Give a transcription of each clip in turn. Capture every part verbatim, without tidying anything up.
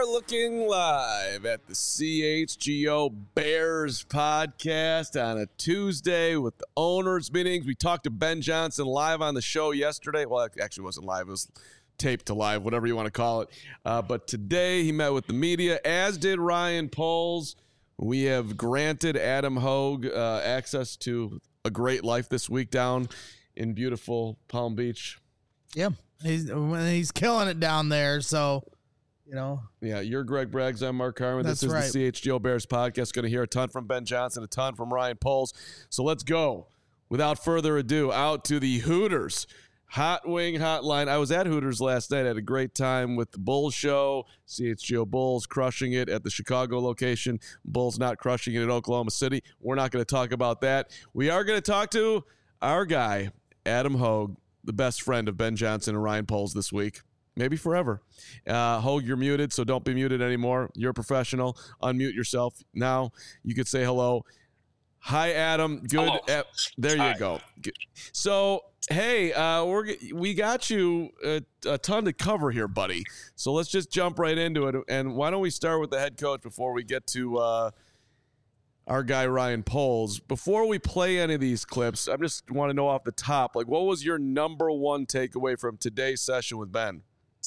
are looking live at the C H G O Bears podcast on a Tuesday with the owners' meetings. We talked to Ben Johnson live on the show yesterday. Well, it actually wasn't live. It was taped to live, whatever you want to call it. Uh, but today he met with the media, as did Ryan Poles. We have granted Adam Hogue uh, access to a great life this week down in beautiful Palm Beach. Yeah, he's he's killing it down there, so... You know, yeah, you're Greg Braggs. I'm Mark Carman. That's this is right. the C H G O Bears podcast. Going to hear a ton from Ben Johnson, a ton from Ryan Poles. So let's go. Without further ado, out to the Hooters Hot Wing Hotline. I was at Hooters last night. I had a great time with the Bulls show. C H G O Bulls crushing it at the Chicago location. Bulls not crushing it at Oklahoma City. We're not going to talk about that. We are going to talk to our guy, Adam Hogue, the best friend of Ben Johnson and Ryan Poles this week. Maybe forever. Uh, Hogue, you're muted, so don't be muted anymore. You're a professional. Unmute yourself. Now you could say hello. Hi, Adam. Good. Hello. Uh, there Hi. you go. Good. So, hey, uh, we're we got you a, a ton to cover here, buddy. So let's just jump right into it. And why don't we start with the head coach before we get to uh, our guy Ryan Poles? Before we play any of these clips, I just want to know off the top, like, what was your number one takeaway from today's session with Ben?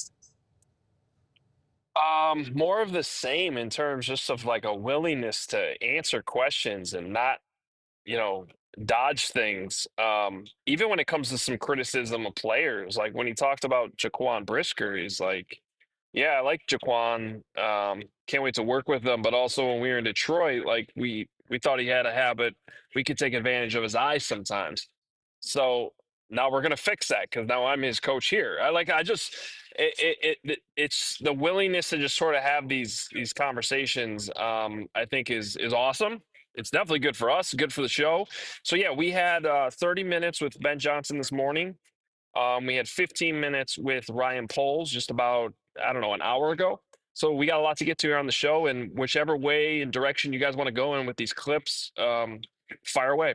Um, more of the same in terms just of like a willingness to answer questions and not, you know, dodge things. Um, even when it comes to some criticism of players, like when he talked about Jaquan Brisker, he's like, yeah, I like Jaquan. Um, can't wait to work with him. But also when we were in Detroit, like we we thought he had a habit. We could take advantage of his eyes sometimes. So now we're gonna fix that because now I'm his coach here. I like I just it, it, it it's the willingness to just sort of have these these conversations. Um, I think is is awesome. It's definitely good for us, good for the show. So yeah, we had uh, thirty minutes with Ben Johnson this morning. Um, we had fifteen minutes with Ryan Poles just about I don't know an hour ago. So we got a lot to get to here on the show, and whichever way and direction you guys want to go in with these clips, um, fire away.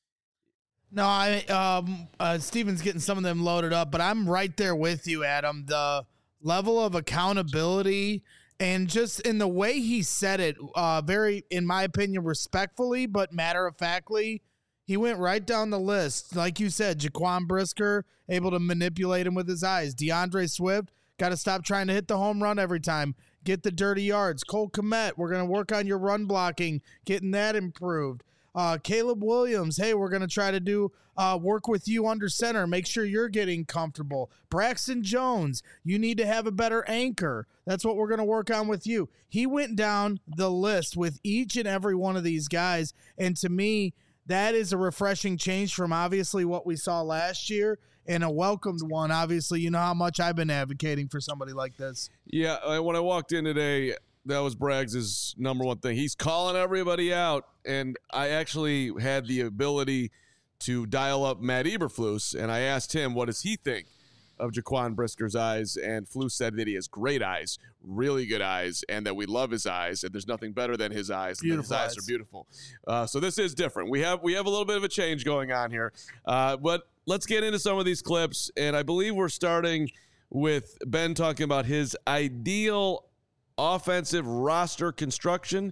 no, I um, uh, Steven's getting some of them loaded up, but I'm right there with you, Adam. The level of accountability and just in the way he said it, uh, very, in my opinion, respectfully, but matter of factly, he went right down the list. Like you said, Jaquan Brisker, able to manipulate him with his eyes. DeAndre Swift, got to stop trying to hit the home run every time. Get the dirty yards. Cole Kmet, we're going to work on your run blocking, getting that improved. Uh, Caleb Williams, hey, we're going to try to do uh, work with you under center. Make sure you're getting comfortable. Braxton Jones, you need to have a better anchor. That's what we're going to work on with you. He went down the list with each and every one of these guys, and to me, that is a refreshing change from obviously what we saw last year and a welcomed one. Obviously, you know how much I've been advocating for somebody like this. Yeah, I- when I walked in today, that was Braggs' number one thing. He's calling everybody out, and I actually had the ability to dial up Matt Eberflus, and I asked him, what does he think of Jaquan Brisker's eyes? And Flus said that he has great eyes, really good eyes, and that we love his eyes, and there's nothing better than his eyes. And Beautiful his eyes, eyes. are beautiful. Uh, so this is different. We have we have a little bit of a change going on here, uh, but let's get into some of these clips, and I believe we're starting with Ben talking about his ideal offensive roster construction.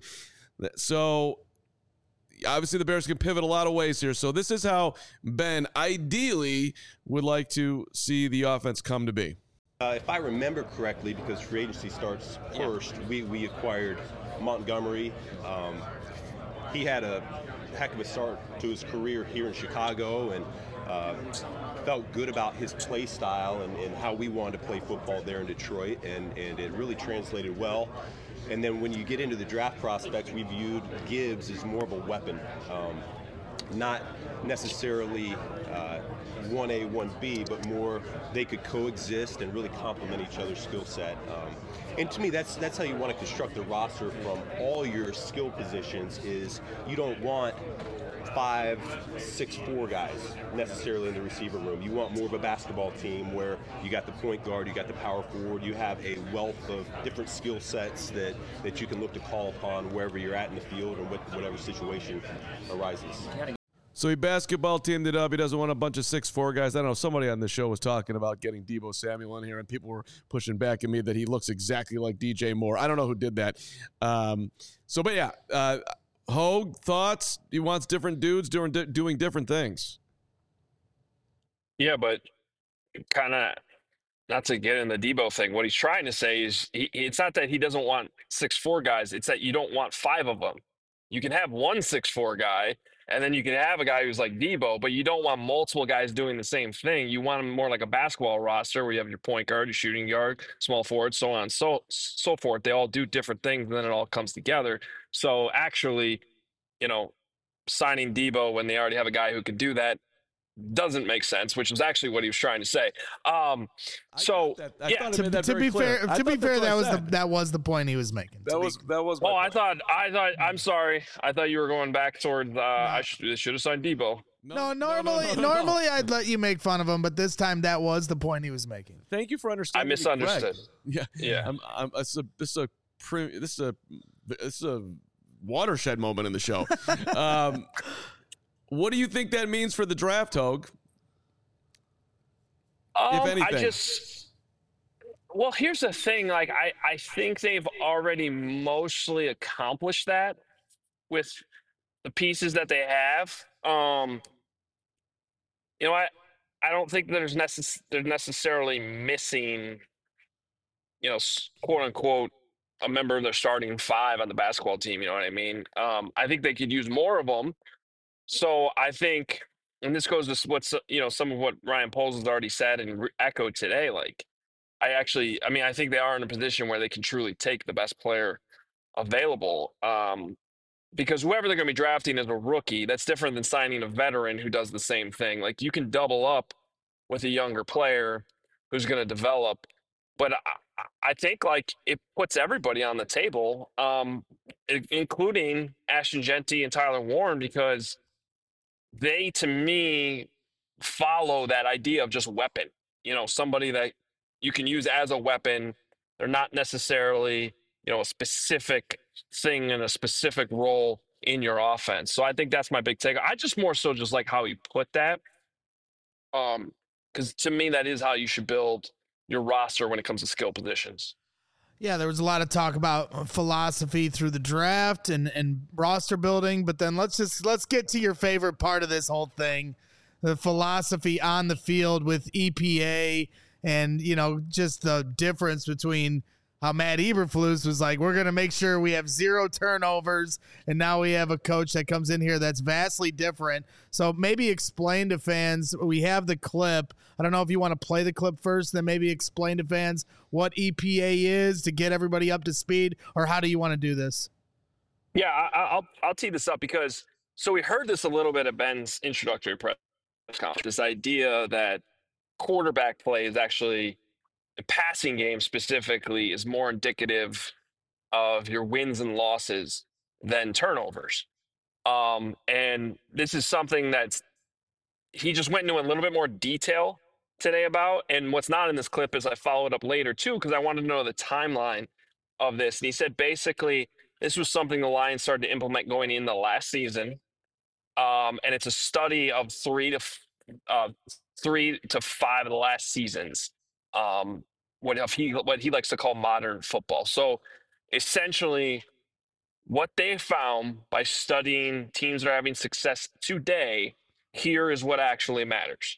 So obviously the Bears can pivot a lot of ways here. So this is how Ben ideally would like to see the offense come to be. Uh, if I remember correctly, because free agency starts first, we, we acquired Montgomery. Um, he had a heck of a start to his career here in Chicago, and uh, felt good about his play style and, and how we wanted to play football there in Detroit, and, and it really translated well. And then when you get into the draft prospects, we viewed Gibbs as more of a weapon, um, not necessarily uh, one A, one B, but more they could coexist and really complement each other's skill set. Um, and to me, that's that's how you want to construct the roster from all your skill positions. Is you don't want five, six, four guys necessarily in the receiver room. You want more of a basketball team where you got the point guard, you got the power forward, you have a wealth of different skill sets that, that you can look to call upon wherever you're at in the field or what, whatever situation arises. So he basketball teamed it up. He doesn't want a bunch of six four guys. I don't know. Somebody on the show was talking about getting Deebo Samuel in here, and people were pushing back at me that he looks exactly like D J Moore. I don't know who did that. Um, so, but yeah, uh, Hogue, thoughts? He wants different dudes doing doing different things. Yeah, but kind of not to get in the Deebo thing. What he's trying to say is he, it's not that he doesn't want six four guys. It's that you don't want five of them. You can have one six four guy, and then you can have a guy who's like Deebo, but you don't want multiple guys doing the same thing. You want them more like a basketball roster where you have your point guard, your shooting guard, small forward, so on and so, so forth. They all do different things, and then it all comes together. So actually, you know, signing Deebo when they already have a guy who can do that doesn't make sense, which is actually what he was trying to say. Um, so yeah, to, to be fair, to be fair, that was the that was the point he was making. That was that was. Oh, I thought I thought I'm sorry. I thought you were going back toward. Uh, no. I should should have signed Deebo. No, no normally no, no, no, normally no. I'd let you make fun of him, but this time that was the point he was making. Thank you for understanding. I misunderstood. Yeah, yeah. I'm, I'm, this is a this is a this is a this is a watershed moment in the show. um, What do you think that means for the draft, Hogue? Um, if anything. I just, well, here's the thing. Like, I, I think they've already mostly accomplished that with the pieces that they have. Um, you know, I, I don't think there's necess- they're necessarily missing, you know, quote unquote, a member of their starting five on the basketball team. You know what I mean? Um, I think they could use more of them. So I think, and this goes to what's, you know, some of what Ryan Poles has already said and re- echoed today. Like, I actually, I mean, I think they are in a position where they can truly take the best player available. Um, because whoever they're going to be drafting is a rookie. That's different than signing a veteran who does the same thing. Like, you can double up with a younger player who's going to develop. But I, I think, like, it puts everybody on the table, um, including Ashton Jeanty and Tyler Warren, because they, to me, follow that idea of just weapon. You know, somebody that you can use as a weapon. They're not necessarily, you know, a specific thing in a specific role in your offense. So I think that's my big take. I just more so just like how he put that. Um, because to me, that is how you should build your roster when it comes to skill positions. Yeah, there was a lot of talk about philosophy through the draft and, and roster building, but then let's just let's get to your favorite part of this whole thing, the philosophy on the field with E P A and, you know, just the difference between how Matt Eberflus was like, we're going to make sure we have zero turnovers, and now we have a coach that comes in here that's vastly different. So maybe explain to fans, we have the clip. I don't know if you want to play the clip first, then maybe explain to fans what E P A is to get everybody up to speed, or how do you want to do this? Yeah, I, I'll I'll tee this up because so we heard this a little bit at Ben's introductory press conference. This idea that quarterback play is actually the passing game specifically is more indicative of your wins and losses than turnovers. Um, and this is something that's he just went into a little bit more detail today about. And what's not in this clip is I followed up later too, because I wanted to know the timeline of this. And he said basically this was something the Lions started to implement going into last season. Um, and it's a study of three to uh, three to five of the last seasons. Um, what he what he likes to call modern football. So essentially, what they found by studying teams that are having success today, here is what actually matters.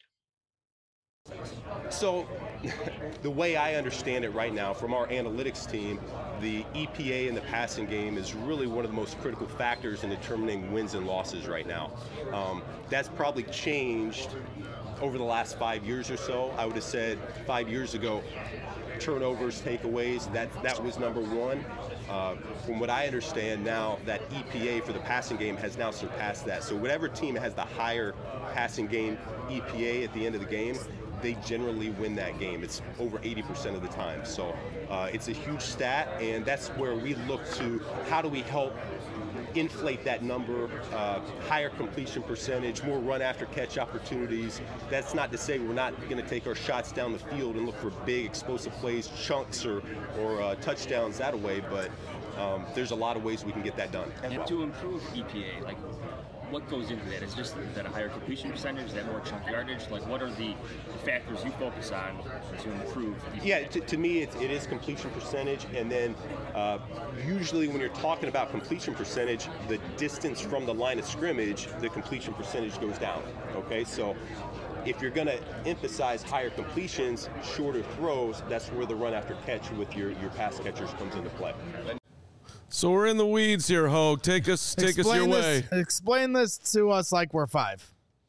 So the way I understand it right now from our analytics team, the E P A in the passing game is really one of the most critical factors in determining wins and losses right now. Um, that's probably changed over the last five years or so. I would have said five years ago, turnovers, takeaways, that, that was number one. Uh, from what I understand now, that E P A for the passing game has now surpassed that. So whatever team has the higher passing game E P A at the end of the game, they generally win that game. It's over eighty percent of the time. So uh, it's a huge stat, and that's where we look to how do we help inflate that number, uh, higher completion percentage, more run after catch opportunities. That's not to say we're not going to take our shots down the field and look for big explosive plays, chunks or, or uh, touchdowns that way, but um, there's a lot of ways we can get that done. And to improve E P A, like what goes into that? Is just is that a higher completion percentage? Is that more chunk yardage? Like, what are the factors you focus on to improve? Yeah, to, to me, it's, it is completion percentage, and then uh, usually when you're talking about completion percentage, the distance from the line of scrimmage, the completion percentage goes down. Okay, so if you're going to emphasize higher completions, shorter throws, that's where the run after catch with your, your pass catchers comes into play. So we're in the weeds here, Hogue. Take us, take explain us your this, way. Explain this to us like we're five.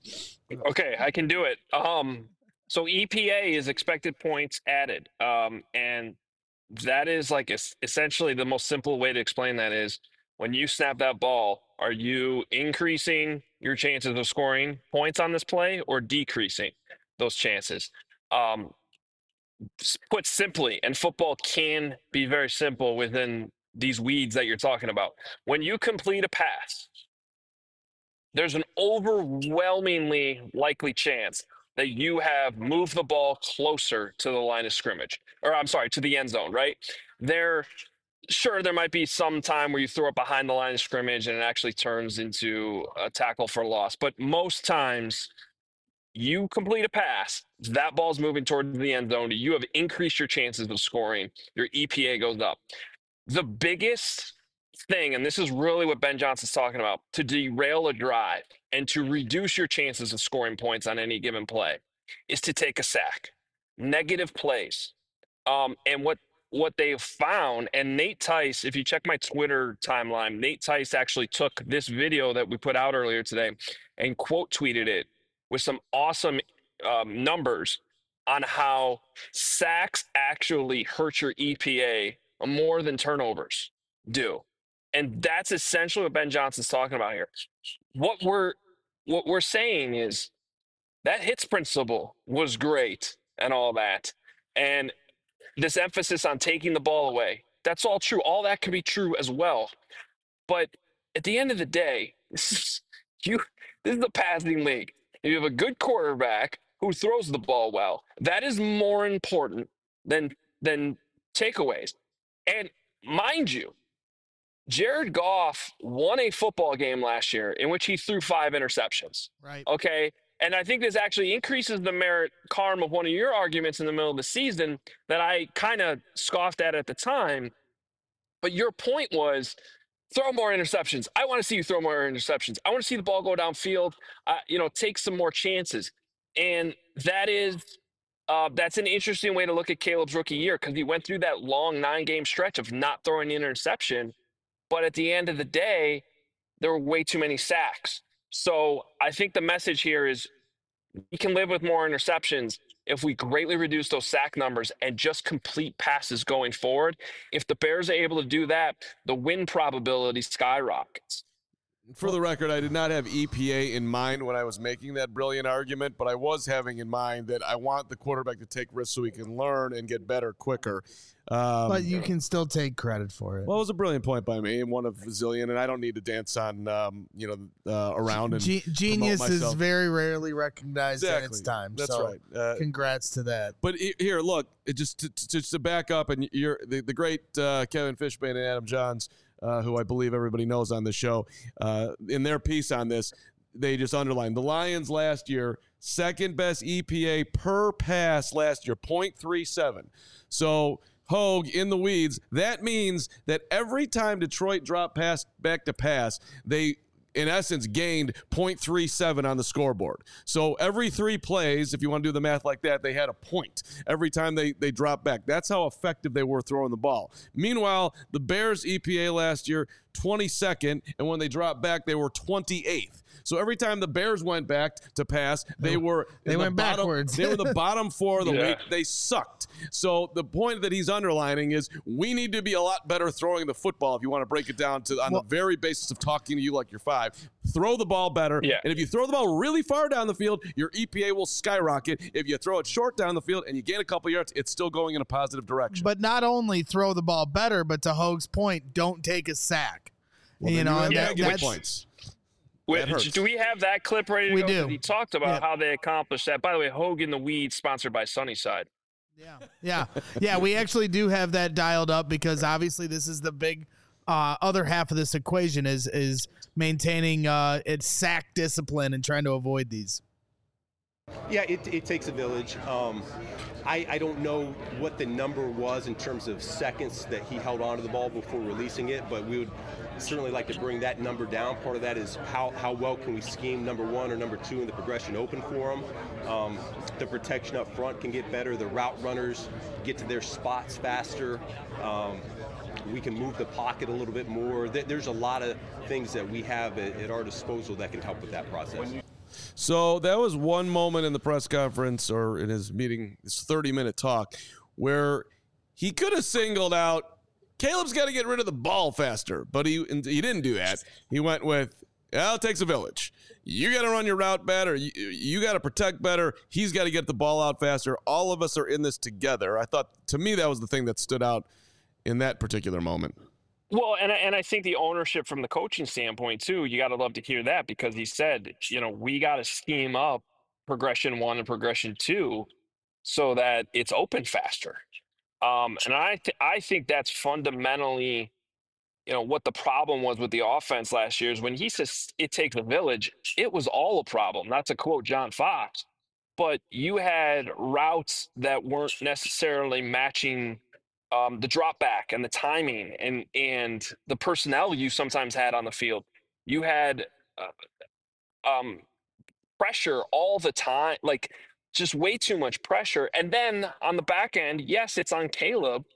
Okay, I can do it. Um, so E P A is expected points added, um, and that is like es- essentially the most simple way to explain that is when you snap that ball, are you increasing your chances of scoring points on this play or decreasing those chances? Um, s- put simply, and football can be very simple within these weeds that you're talking about. When you complete a pass, there's an overwhelmingly likely chance that you have moved the ball closer to the line of scrimmage, or I'm sorry, to the end zone, right? There, sure, there might be some time where you throw it behind the line of scrimmage and it actually turns into a tackle for loss. But most times, you complete a pass, that ball's moving toward the end zone, you have increased your chances of scoring, your E P A goes up. The biggest thing, and this is really what Ben Johnson's talking about, to derail a drive and to reduce your chances of scoring points on any given play is to take a sack. Negative plays. Um, and what what they've found, and Nate Tice, if you check my Twitter timeline, Nate Tice actually took this video that we put out earlier today and quote tweeted it with some awesome um, numbers on how sacks actually hurt your E P A more than turnovers do. And that's essentially what Ben Johnson's talking about here. What we're what we're saying is that hits principle was great and all that. And this emphasis on taking the ball away, that's all true. All that can be true as well. But at the end of the day, this is you this is the passing league. If you have a good quarterback who throws the ball well, that is more important than than takeaways. And mind you, Jared Goff won a football game last year in which he threw five interceptions. Right. Okay. And I think this actually increases the merit, Carm, of one of your arguments in the middle of the season that I kind of scoffed at at the time. But your point was throw more interceptions. I want to see you throw more interceptions. I want to see the ball go downfield, uh, you know, take some more chances. And that is Uh, that's an interesting way to look at Caleb's rookie year because he went through that long nine-game stretch of not throwing an interception. But at the end of the day, there were way too many sacks. So I think the message here is we can live with more interceptions if we greatly reduce those sack numbers and just complete passes going forward. If the Bears are able to do that, the win probability skyrockets. For the record, I did not have E P A in mind when I was making that brilliant argument, but I was having in mind that I want the quarterback to take risks so he can learn and get better quicker. Um, But you can still take credit for it. Well, it was a brilliant point by me, and one of a zillion, and I don't need to dance on, um, you know, uh, around and Ge- genius promote is myself. very rarely recognized Exactly. in its time. That's so right. Uh, congrats to that. But he- here, look, it just to, to, to back up, and you're the, the great uh, Kevin Fishbane and Adam Johns, uh, who I believe everybody knows on the show, uh, in their piece on this, they just underlined the Lions last year, second best E P A per pass last year, point three seven. So Hogue in the weeds. That means that every time Detroit dropped pass back to pass, they in essence gained point three seven on the scoreboard. So every three plays, if you want to do the math like that, they had a point every time they, they dropped back. That's how effective they were throwing the ball. Meanwhile, the Bears' E P A last year, twenty-second, and when they dropped back, they were twenty-eighth. So every time the Bears went back to pass, they were They in went the bottom, backwards. They were the bottom four of the Yeah. league. They sucked. So the point that he's underlining is we need to be a lot better throwing the football if you want to break it down to on Well- the very basis of talking to you like you're five. Throw the ball better. Yeah. And if you throw the ball really far down the field, your E P A will skyrocket. If you throw it short down the field and you gain a couple yards, it's still going in a positive direction. But not only throw the ball better, but to Hogue's point, don't take a sack. Well, you then know, have and that, negative that's points. Wait, That hurts. do we have that clip ready to We go? do. 'Cause He talked about Yeah. how they accomplished that. By the way, Hogue in the Weeds, sponsored by Sunnyside. yeah, yeah, yeah. We actually do have that dialed up because obviously this is the big uh, other half of this equation is is maintaining uh, its sack discipline and trying to avoid these. Yeah, it, it takes a village. Um, I, I don't know what the number was in terms of seconds that he held onto the ball before releasing it, but we would certainly like to bring that number down. Part of that is how, how well can we scheme number one or number two in the progression open for him. Um, the protection up front can get better. The route runners get to their spots faster. Um, we can move the pocket a little bit more. There's a lot of things that we have at, at our disposal that can help with that process. So that was one moment in the press conference or in his meeting, his thirty-minute talk, where he could have singled out, Caleb's got to get rid of the ball faster, but he he didn't do that. He went with, well, it takes a village. You got to run your route better. You, you got to protect better. He's got to get the ball out faster. All of us are in this together. I thought, to me, that was the thing that stood out in that particular moment. Well, and, and I think the ownership from the coaching standpoint, too, you got to love to hear that because he said, you know, we got to scheme up progression one and progression two so that it's open faster. Um, and I, th- I think that's fundamentally, you know, what the problem was with the offense last year is when he says it takes a village, it was all a problem. Not to quote John Fox, but you had routes that weren't necessarily matching Um, the drop back and the timing and and the personnel you sometimes had on the field. You had uh, um, pressure all the time, like just way too much pressure. And then on the back end, yes, it's on Caleb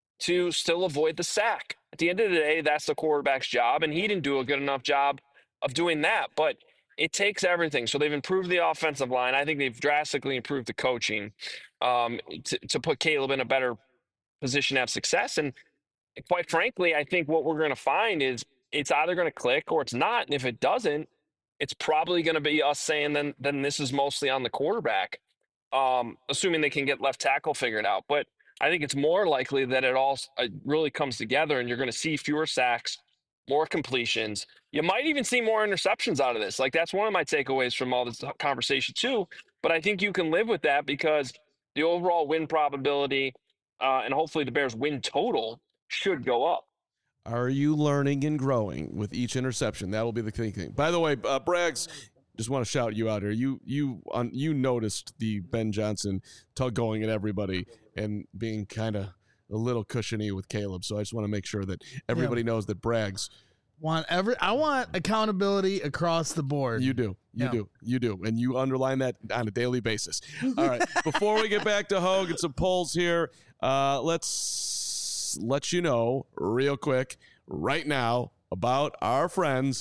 to still avoid the sack. At the end of the day, that's the quarterback's job, and he didn't do a good enough job of doing that. But it takes everything. So they've improved the offensive line. I think they've drastically improved the coaching um, to, to put Caleb in a better position to have success. And quite frankly, I think what we're going to find is it's either going to click or it's not. And if it doesn't, it's probably going to be us saying then then this is mostly on the quarterback, um, assuming they can get left tackle figured out. But I think it's more likely that it all uh, really comes together and you're going to see fewer sacks, more completions. You might even see more interceptions out of this. Like that's one of my takeaways from all this conversation too. But I think you can live with that because the overall win probability Uh, and hopefully the Bears win total should go up. Are you learning and growing with each interception? That will be the key thing. By the way, uh, Braggs, just want to shout you out here. You you on you noticed the Ben Johnson tug going at everybody and being kind of a little cushiony with Caleb. So I just want to make sure that everybody yeah. knows that Braggs want every. I want accountability across the board. You do. You yeah. do. You do. And you underline that on a daily basis. All right. Before we get back to Hogue and some polls here, uh, let's let you know real quick right now about our friends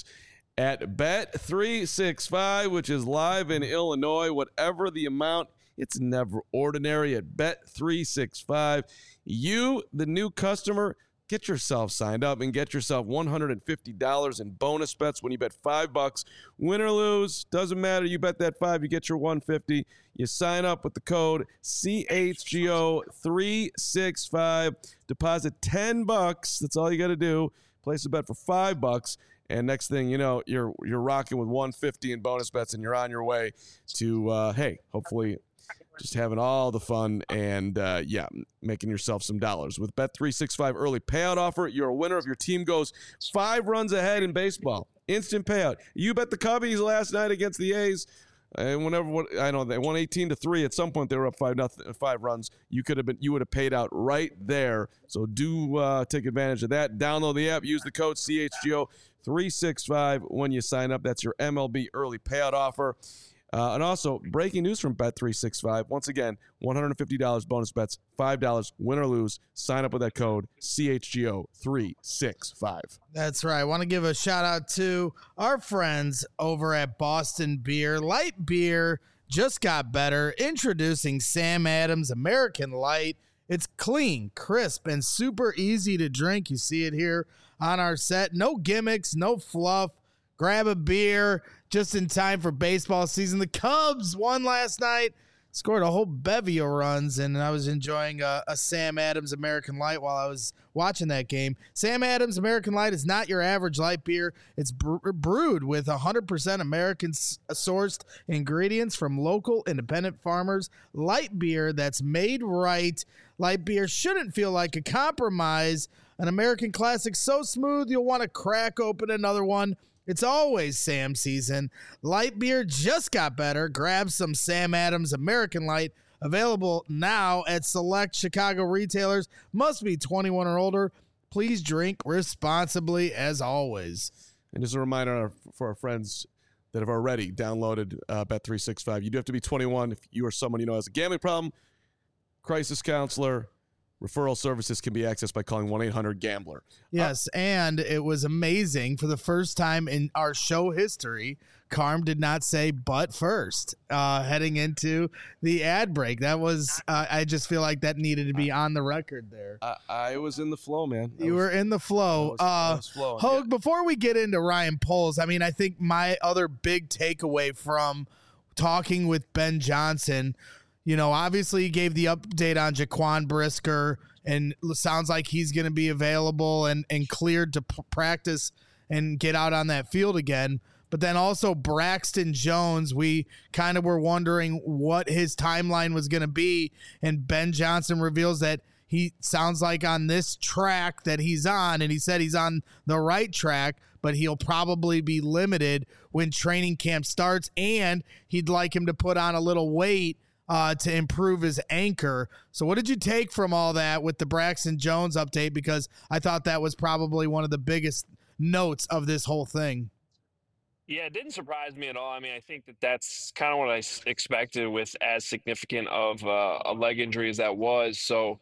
at Bet three sixty-five, which is live in Illinois. Whatever the amount, it's never ordinary at Bet three sixty-five. You, the new customer, get yourself signed up and get yourself one hundred fifty dollars in bonus bets when you bet five bucks. Win or lose, doesn't matter. You bet that five, you get your one hundred fifty. You sign up with the code C H G O three sixty-five. Deposit ten bucks. That's all you got to do. Place a bet for five bucks. And next thing you know, you're you're rocking with one hundred fifty in bonus bets, and you're on your way to, uh, hey, hopefully just having all the fun and, uh, yeah, making yourself some dollars. With Bet three sixty-five early payout offer, you're a winner if your team goes five runs ahead in baseball. Instant payout. You bet the Cubbies last night against the A's. And whenever what, I know they won eighteen to three. At some point, they were up five nothing, five runs. You could have been, you would have paid out right there. So do uh, take advantage of that. Download the app. Use the code C H G O three sixty-five when you sign up. That's your M L B early payout offer. Uh, and also, breaking news from Bet three sixty-five. Once again, one hundred fifty dollars bonus bets, five dollars, win or lose. Sign up with that code C H G O three sixty-five. That's right. I want to give a shout out to our friends over at Boston Beer. Light beer just got better. Introducing Sam Adams American Light. It's clean, crisp, and super easy to drink. You see it here on our set. No gimmicks, no fluff. Grab a beer just in time for baseball season. The Cubs won last night, scored a whole bevy of runs, and I was enjoying a, a Sam Adams American Light while I was watching that game. Sam Adams American Light is not your average light beer. It's bre- brewed with one hundred percent American-sourced ingredients from local independent farmers. Light beer that's made right. Light beer shouldn't feel like a compromise. An American classic so smooth you'll want to crack open another one. It's always Sam season. Light beer just got better. Grab some Sam Adams American Light. Available now at select Chicago retailers. Must be twenty-one or older. Please drink responsibly as always. And just a reminder for our friends that have already downloaded uh, Bet three sixty-five, you do have to be twenty-one. If you or someone you know has a gambling problem, crisis counselor, referral services can be accessed by calling one eight hundred gambler. Yes, uh, and it was amazing. For the first time in our show history, Carm did not say but first uh, heading into the ad break. That was, uh, I just feel like that needed to be on the record there. I, I was in the flow, man. I you was, were in the flow. I was, I uh, was flowing, Hogue, yeah. Before we get into Ryan Poles, I mean, I think my other big takeaway from talking with Ben Johnson, you know, obviously he gave the update on Jaquan Brisker, and sounds like he's going to be available and, and cleared to p- practice and get out on that field again. But then also Braxton Jones, we kind of were wondering what his timeline was going to be. And Ben Johnson reveals that he sounds like on this track that he's on, and he said he's on the right track, but he'll probably be limited when training camp starts, and he'd like him to put on a little weight Uh, to improve his anchor. So what did you take from all that with the Braxton Jones update? Because I thought that was probably one of the biggest notes of this whole thing. Yeah, it didn't surprise me at all. I mean, I think that that's kind of what I s- expected with as significant of uh, a leg injury as that was. So,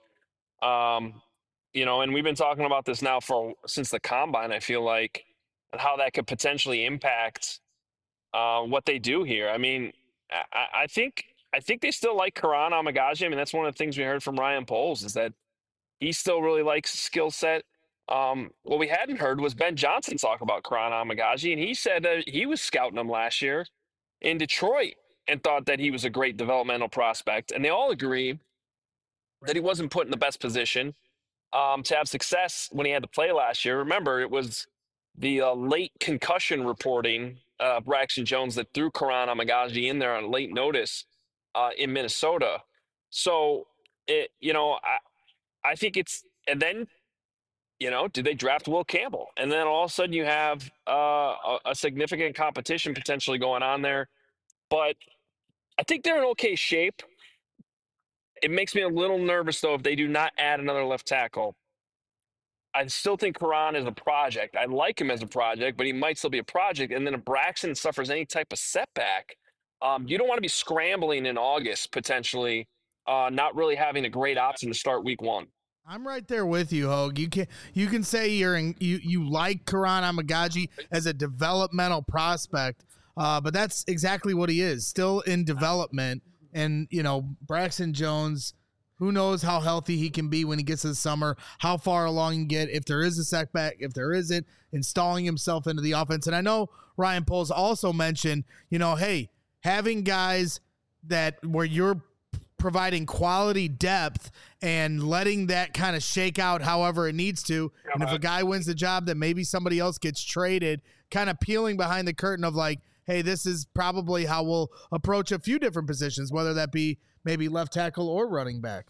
um, you know, and we've been talking about this now for since the combine, I feel like, and how that could potentially impact uh, what they do here. I mean, I, I think I think they still like Karan Amagaji. I mean, that's one of the things we heard from Ryan Poles is that he still really likes his skill set. Um, what we hadn't heard was Ben Johnson talk about Karan Amagaji, and he said that he was scouting him last year in Detroit and thought that he was a great developmental prospect. And they all agree that he wasn't put in the best position um, to have success when he had to play last year. Remember, it was the uh, late concussion reporting, uh, Braxton Jones, that threw Karan Amagaji in there on late notice uh, in Minnesota. So, it, you know, I, I think it's, and then, you know, do they draft Will Campbell? And then all of a sudden you have uh, a, a significant competition potentially going on there. But I think they're in okay shape. It makes me a little nervous, though, if they do not add another left tackle. I still think Karan is a project. I like him as a project, but he might still be a project. And then if Braxton suffers any type of setback, um, you don't want to be scrambling in August, potentially, uh, not really having a great option to start week one. I'm right there with you, Hogue. You can you can say you're in, you you like Karan Amagaji as a developmental prospect, uh, but that's exactly what he is, still in development. And you know, Braxton Jones, who knows how healthy he can be when he gets to the summer, how far along he can get, if there is a setback, if there isn't, installing himself into the offense. And I know Ryan Poles also mentioned, you know, hey, having guys that where you're providing quality depth and letting that kind of shake out however it needs to. And if a guy wins the job, then maybe somebody else gets traded, kind of peeling behind the curtain of like, hey, this is probably how we'll approach a few different positions, whether that be maybe left tackle or running back.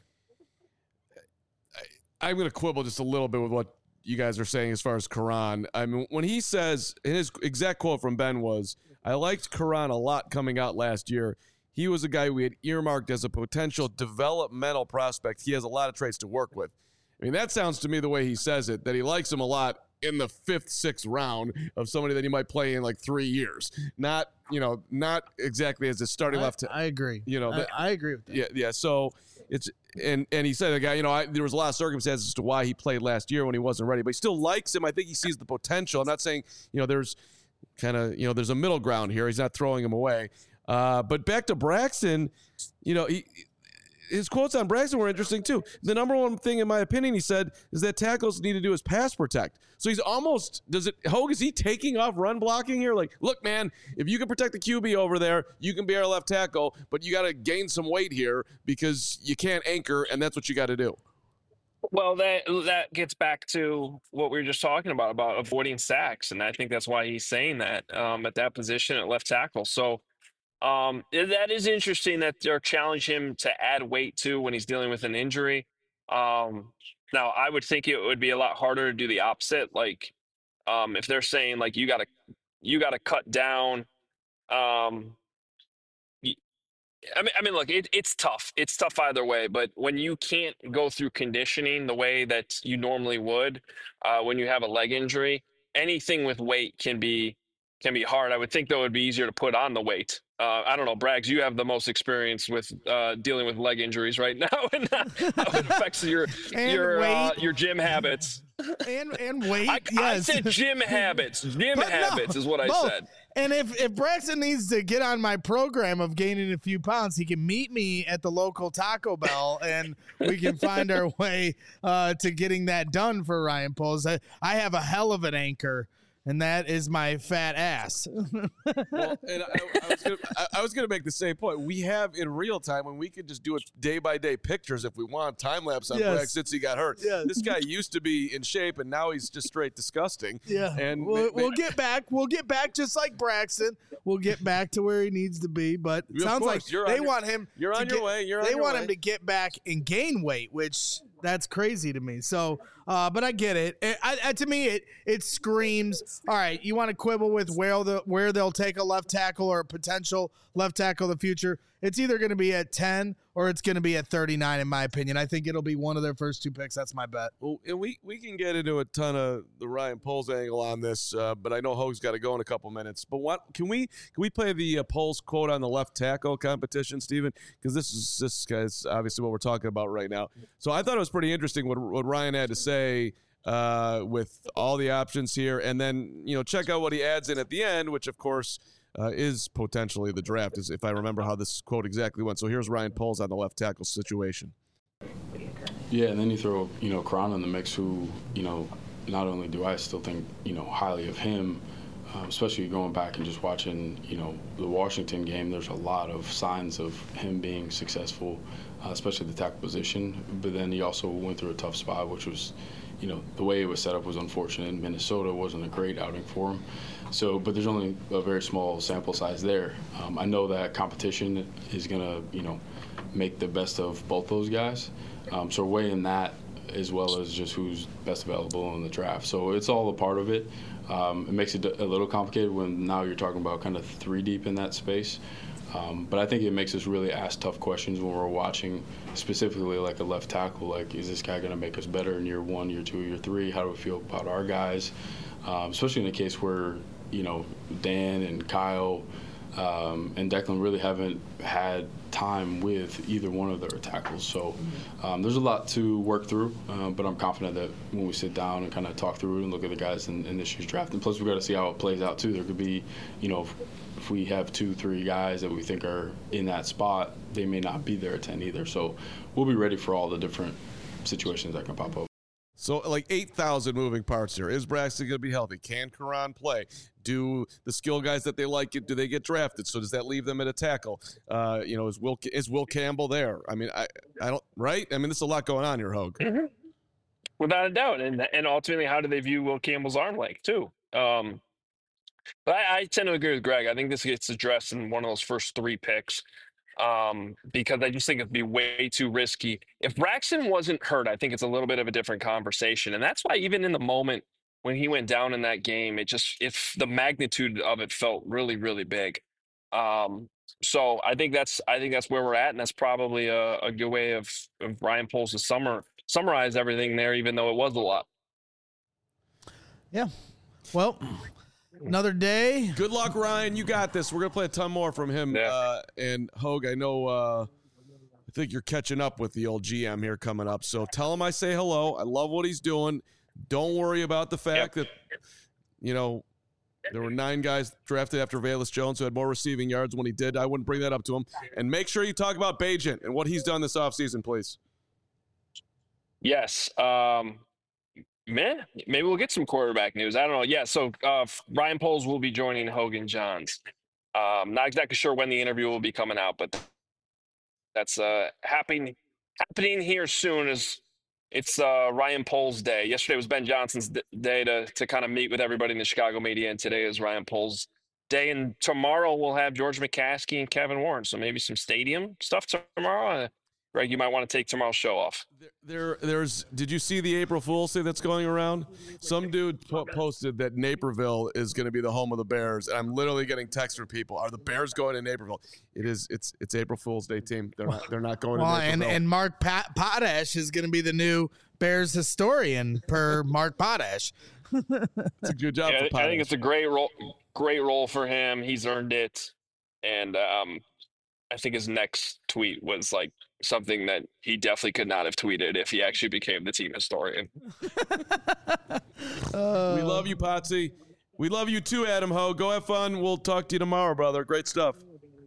I, I'm going to quibble just a little bit with what you guys are saying as far as Karan. I mean, when he says, and his exact quote from Ben was, I liked Karan a lot coming out last year. He was a guy we had earmarked as a potential developmental prospect. He has a lot of traits to work with. I mean, that sounds to me the way he says it, that he likes him a lot in the fifth, sixth round of somebody that he might play in like three years. Not, you know, not exactly as a starting I, left. I agree. You know, I, that, I agree with that. Yeah, yeah. So it's and and he said the guy, you know, I, there was a lot of circumstances as to why he played last year when he wasn't ready, but he still likes him. I think he sees the potential. I'm not saying, you know, there's kind of, you know, there's a middle ground here. He's not throwing him away. Uh, but back to Braxton, you know, he, his quotes on Braxton were interesting too. The number one thing, in my opinion, he said, is that tackles need to do is pass protect. So he's almost, does it, Hogue, is he taking off run blocking here? Like, look, man, if you can protect the Q B over there, you can be our left tackle, but you got to gain some weight here because you can't anchor, and that's what you got to do. Well, that that gets back to what we were just talking about, about avoiding sacks. And I think that's why he's saying that um, at that position at left tackle. So um, that is interesting that they're challenging him to add weight to when he's dealing with an injury. Um, now, I would think it would be a lot harder to do the opposite. Like um, if they're saying like you got to you got to cut down. Um, I mean, I mean, look, it, it's tough. It's tough either way. But when you can't go through conditioning the way that you normally would, uh, when you have a leg injury, anything with weight can be can be hard. I would think though it'd be easier to put on the weight. Uh, I don't know, Braggs, you have the most experience with uh, dealing with leg injuries right now, and how it affects your your uh, your gym habits. And and weight. I, yes. I said gym habits. Gym But habits no, is what I both. said. And if, if Braxton needs to get on my program of gaining a few pounds, he can meet me at the local Taco Bell, and we can find our way uh, to getting that done for Ryan Poles. I, I have a hell of an anchor, and that is my fat ass. Well, and I, I was gonna, I, I was going to make the same point. We have in real time when we could just do it day by day pictures if we want, time lapse on Yes. Bragg since he got hurt. Yes. This guy used to be in shape, and now he's just straight disgusting. Yeah, and we'll, ma- we'll ma- get back. We'll get back just like Braxton. We'll get back to where he needs to be. But it Of sounds course, like you're they on your- want him. you're to on your get- way, you're on they your want way. him to get back and gain weight, which that's crazy to me. So, uh, but I get it. It- I, I, to me, it it screams. All right, you want to quibble with where the where they'll take a left tackle or a potential left tackle in the future? It's either going to be at ten or it's going to be at thirty-nine, in my opinion. I think it'll be one of their first two picks. That's my bet. Well, and we, we can get into a ton of the Ryan Poles angle on this, uh, but I know Hogue's got to go in a couple minutes. But what can we can we play the uh, Poles quote on the left tackle competition, Steven? Because this is this guy's obviously what we're talking about right now. So I thought it was pretty interesting what what Ryan had to say uh, with all the options here, and then you know check out what he adds in at the end, which of course. Uh, is potentially the draft, is if I remember how this quote exactly went. So here's Ryan Poles on the left tackle situation. Yeah, and then you throw, you know, Karan in the mix, who, you know, not only do I still think, you know, highly of him, um, especially going back and just watching, you know, the Washington game, there's a lot of signs of him being successful, uh, especially the tackle position. But then he also went through a tough spot, which was, you know, the way it was set up was unfortunate. Minnesota wasn't a great outing for him. So, but there's only a very small sample size there. Um, I know that competition is going to, you know, make the best of both those guys. Um, so weighing that as well as just who's best available in the draft. So it's all a part of it. Um, it makes it a little complicated when now you're talking about kind of three deep in that space. Um, but I think it makes us really ask tough questions when we're watching, specifically like a left tackle. Like, is this guy going to make us better in year one, year two, year three? How do we feel about our guys? Um, especially in a case where, you know, Dan and Kyle um, and Declan really haven't had time with either one of their tackles. So um, there's a lot to work through, uh, but I'm confident that when we sit down and kind of talk through it and look at the guys in, in this year's draft, and plus we've got to see how it plays out too. There could be, you know, if, if we have two, three guys that we think are in that spot, they may not be there at ten either. So we'll be ready for all the different situations that can pop up. So like eight thousand moving parts here. Is Braxton going to be healthy? Can Karan play? Do the skill guys that they like, do they get drafted? So does that leave them at a tackle? Uh, you know, is Will is Will Campbell there? I mean, I, I don't, right? I mean, there's a lot going on here, Hogue. Mm-hmm. Without a doubt. And and ultimately, how do they view Will Campbell's arm length, too? Um, but I, I tend to agree with Greg. I think this gets addressed in one of those first three picks. Um, because I just think it'd be way too risky. If Braxton wasn't hurt, I think it's a little bit of a different conversation. And that's why even in the moment when he went down in that game, it just, if the magnitude of it felt really, really big. Um, so I think that's, I think that's where we're at. And that's probably a, a good way of, of Ryan Poles to summer, summarize everything there, even though it was a lot. Yeah. Well, another day. Good luck, Ryan. You got this. We're going to play a ton more from him. Yeah. Uh, and Hogue, I know, uh, I think you're catching up with the old G M here coming up. So tell him I say hello. I love what he's doing. Don't worry about the fact Yep. that, you know, There were nine guys drafted after Velus Jones who had more receiving yards when he did. I wouldn't bring that up to him. And make sure you talk about Bagent and what he's done this offseason, please. Yes. Um, man, maybe we'll get some quarterback news. I don't know. Yeah, so uh, Ryan Poles will be joining Hogan Johns. Um, not exactly sure when the interview will be coming out, but that's uh, happening happening here soon. As it's uh, Ryan Poles Day. Yesterday was Ben Johnson's d- day to to kind of meet with everybody in the Chicago media, and today is Ryan Poles Day. And tomorrow we'll have George McCaskey and Kevin Warren. So maybe some stadium stuff tomorrow. Uh, Greg, you might want to take tomorrow's show off. There, there, there's. Did you see the April Fool's thing that's going around? Some dude po- posted that Naperville is going to be the home of the Bears, and I'm literally getting texts from people. Are the Bears going to Naperville? It is. It's it's April Fool's Day, team. They're not. They're not going well, to Naperville. And and Mark Pat- Potash is going to be the new Bears historian per Mark Potash. It's a good job. Yeah, for Potash. I think it's a great role. Great role for him. He's earned it, and um, I think his next tweet was like something that he definitely could not have tweeted if he actually became the team historian. uh, we love you, Potsy. We love you too, Adam Ho. Go have fun. We'll talk to you tomorrow, brother. Great stuff.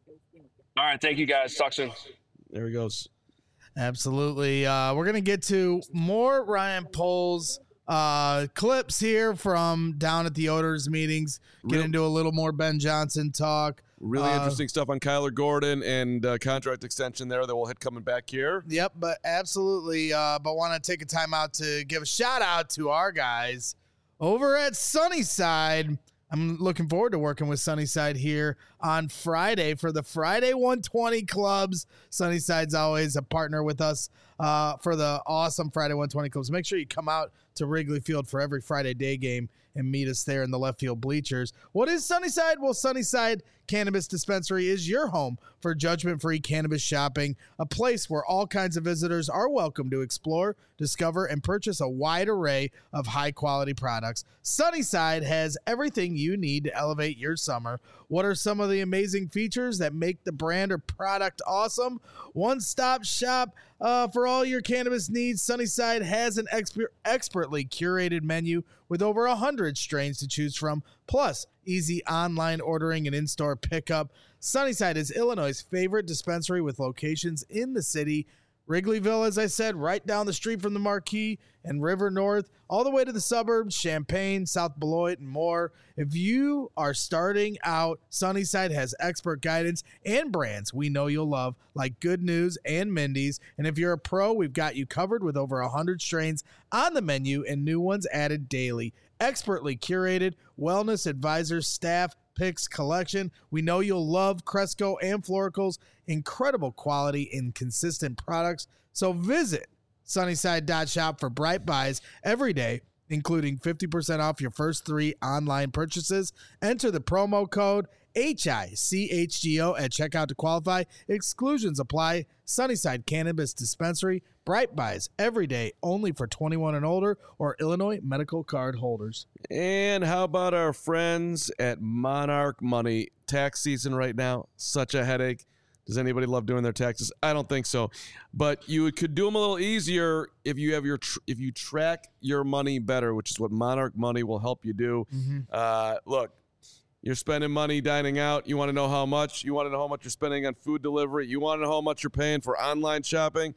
All right. Thank you, guys. Talk soon. There he goes. Absolutely. Uh, we're going to get to more Ryan Poles uh, clips here from down at the owners meetings, get Real- into a little more Ben Johnson talk. Really Uh, interesting stuff on Kyler Gordon and uh, contract extension there that we'll hit coming back here. Yep, but absolutely. Uh, but want to take a time out to give a shout out to our guys over at Sunnyside. I'm looking forward to working with Sunnyside here on Friday for the Friday one twenty clubs. Sunnyside's always a partner with us uh, for the awesome Friday one twenty clubs. Make sure you come out to Wrigley Field for every Friday day game and meet us there in the left field bleachers. What is Sunnyside? Well, Sunnyside Cannabis Dispensary is your home for judgment-free cannabis shopping, a place where all kinds of visitors are welcome to explore, discover, and purchase a wide array of high-quality products. Sunnyside has everything you need to elevate your summer. What are some of the amazing features that make the brand or product awesome? One-stop shop uh, for all your cannabis needs. Sunnyside has an exper- expertly curated menu with over one hundred strains to choose from, plus easy online ordering and in-store pickup. Sunnyside is Illinois' favorite dispensary with locations in the city. Wrigleyville, as I said, right down the street from the Marquee, and River North, all the way to the suburbs, Champaign, South Beloit, and more. If you are starting out, Sunnyside has expert guidance and brands we know you'll love, like Good News and Mindy's. And if you're a pro, we've got you covered with over one hundred strains on the menu and new ones added daily. Expertly curated, wellness advisors, staff, picks, collection. We know you'll love Cresco and Florical's incredible quality and consistent products. So visit Sunnyside dot shop for bright buys every day, including fifty percent off your first three online purchases. Enter the promo code H I C H G O at checkout to qualify. Exclusions apply. Sunnyside Cannabis Dispensary. Bright buys every day, only for twenty-one and older or Illinois medical card holders. And how about our friends at Monarch Money? Tax season right now, such a headache. Does anybody love doing their taxes? I don't think so. But you could do them a little easier if you have your tr- if you track your money better, which is what Monarch Money will help you do. Mm-hmm. Uh, look, you're spending money dining out. You want to know how much. You want to know how much you're spending on food delivery. You want to know how much you're paying for online shopping.